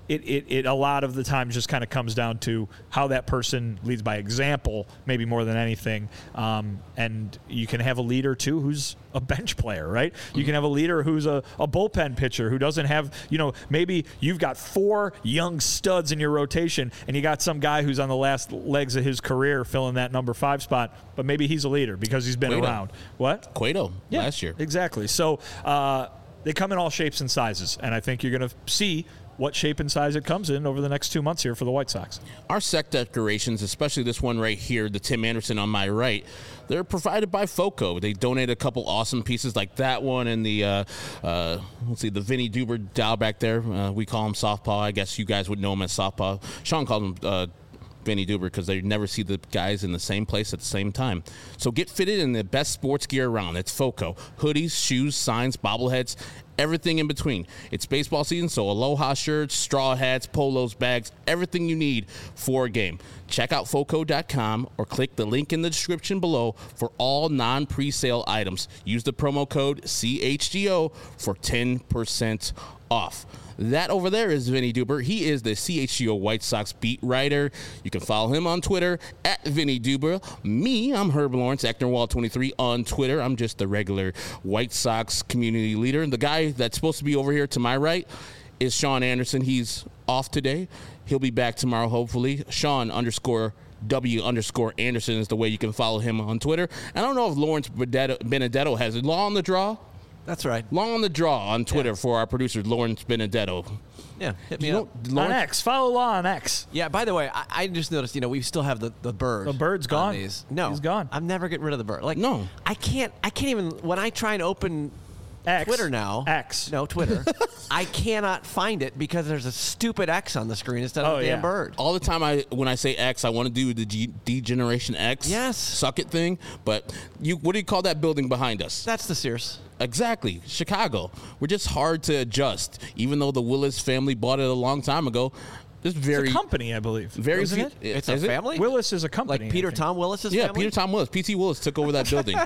it, it, it a lot of the times just kind of comes down to how that person leads by example, maybe more than anything. Um, and you can have a leader, too, who's a bench player, right? You can have a leader who's a, a bullpen pitcher who doesn't have, you know, maybe you've got four young studs in your rotation and you got some guy who's on the last legs of his career filling that number five spot, but maybe he's a leader because he's been Cueto. around. What? Cueto Yeah, last year. Exactly. So uh, they come in all shapes and sizes, and I think you're going to see what shape and size it comes in over the next two months here for the White Sox. Our set decorations, especially this one right here, the Tim Anderson on my right, they're provided by FOCO. They donated a couple awesome pieces like that one and the, uh, uh, let's see, the Vinny Duber dial back there. Uh, we call him Softpaw. I guess you guys would know him as Softpaw. Sean called him uh, Vinny Duber because they never see the guys in the same place at the same time. So get fitted in the best sports gear around. It's FOCO. Hoodies, shoes, signs, bobbleheads, everything in between. It's baseball season, so Aloha shirts, straw hats, polos, bags, everything you need for a game. Check out foco dot com or click the link in the description below for all non-presale items. Use the promo code C H G O for ten percent off. That over there is Vinny Duber. He is the C H G O White Sox beat writer. You can follow him on Twitter at Vinny Duber. Me, I'm Herb Lawrence, Ecknerwall twenty-three on Twitter. I'm just the regular White Sox community leader. And the guy that's supposed to be over here to my right is Sean Anderson. He's off today. He'll be back tomorrow, hopefully. Sean underscore W underscore Anderson is the way you can follow him on Twitter. And I don't know if Lawrence Benedetto, Benedetto has it. Law on the draw? That's right. Long on the draw on Twitter yeah. for our producer, Lawrence Benedetto. Yeah, hit me you up. Know, on X. Follow Law on X. Yeah, by the way, I, I just noticed, you know, we still have the, the bird. The bird's gone. These. No. He's gone. I'm never getting rid of the bird. Like, no. I can't, I can't even, when I try and open X. Twitter now. X. No, Twitter. I cannot find it because there's a stupid X on the screen instead of oh, a damn yeah. bird. All the time I when I say X, I want to do the G- D-Generation X. Yes. Suck it thing. But you, what do you call that building behind us? That's the Sears. Exactly. Chicago. We're just hard to adjust. Even though the Willis family bought it a long time ago, this very it's a company, I believe. Very Isn't few, it? It's is a it? family? Willis is a company. Like Peter Tom Willis's Yeah, family? Peter Tom Willis. P T Willis took over that building.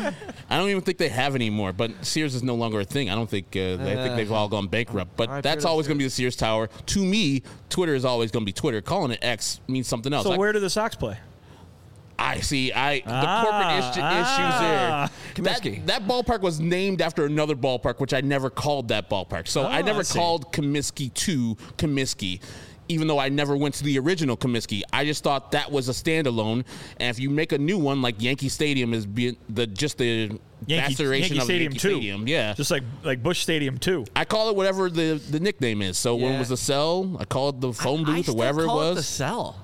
I don't even think they have anymore, but Sears is no longer a thing. I don't think uh, uh, I think they've all gone bankrupt. But right, that's Peter always going to be the Sears Tower. To me, Twitter is always going to be Twitter. Calling it X means something else. So I, where do the Sox play? I see. I the Ah, corporate is- ah. issues there. That, Comiskey. that ballpark was named after another ballpark, which I never called that ballpark. So Oh, I never I see. called Comiskey to Comiskey, even though I never went to the original Comiskey. I just thought that was a standalone. And if you make a new one, like Yankee Stadium is being the just the Yankee, maceration Yankee of Stadium Yankee two. Stadium, yeah. Just like like Busch Stadium two. I call it whatever the, the nickname is. So when Yeah. it was the cell, I called the phone I, I booth still or whatever it call was. the cell.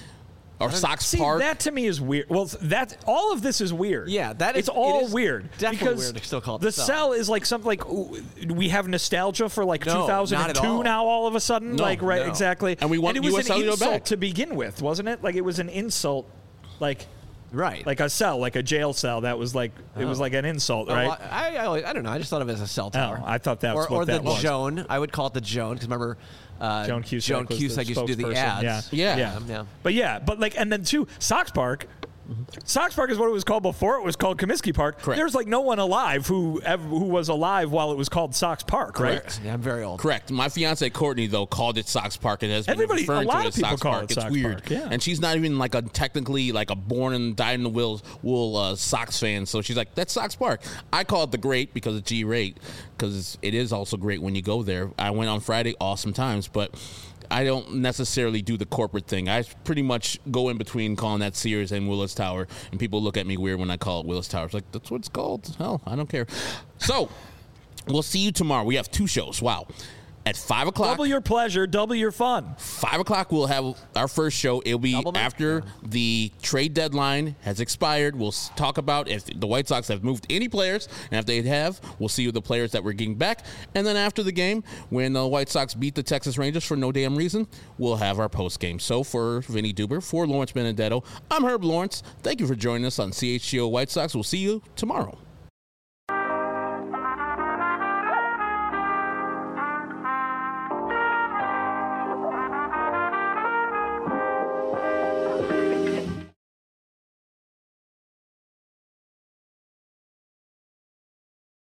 Or Sox See, Park. that to me is weird. Well, that all of this is weird. Yeah, that is- it's all it is weird. definitely because weird to still call it the the cell. cell is like something like ooh, we have nostalgia for like No, two thousand two not at all. now. All of a sudden, No, like right, no. exactly. And we want it was U S an Cellular insult back. to begin with, wasn't it? Like it was an insult, like Right. like a cell, like a jail cell. That was like it was Oh. like an insult, Oh, right? well, I, I, I don't know. I just thought of it as a cell tower. Oh, I thought that was or, what or that the was. Joan. I would call it the Joan because remember, uh, Joan Cusack, Joan was Cusack the used to do the spokesperson. ads. Yeah. Yeah. yeah, Um, yeah. But yeah, but like, and then too, Sox Park. Sox Park is what it was called before it was called Comiskey Park. Correct. There's like no one alive who ever, who was alive while it was called Sox Park, right? Correct. Yeah, I'm very old. Correct. My fiance Courtney though called it Sox Park and has been Everybody- referring a lot to it of as people Sox call Park. it It's Sox weird, Park, yeah. and she's not even like a technically like a born and died in the wool wool uh, Sox fan. So she's like, that's Sox Park. I call it the Great because of G rate because it is also great when you go there. I went on Friday, awesome times, but I don't necessarily do the corporate thing. I pretty much go in between calling that Sears and Willis Tower, and people look at me weird when I call it Willis Tower. It's like, that's what it's called. Hell, I don't care. So, we'll see you tomorrow. We have two shows. Wow. At five o'clock. Double your pleasure, double your fun. Five o'clock, we'll have our first show. It'll be Double after the trade deadline has expired. We'll s- talk about if the White Sox have moved any players, and if they have, we'll see who the players that we're getting back. And then after the game, when the White Sox beat the Texas Rangers for no damn reason, we'll have our post game. So for Vinny Duber, for Lawrence Benedetto, I'm Herb Lawrence. Thank you for joining us on C H G O White Sox. We'll see you tomorrow.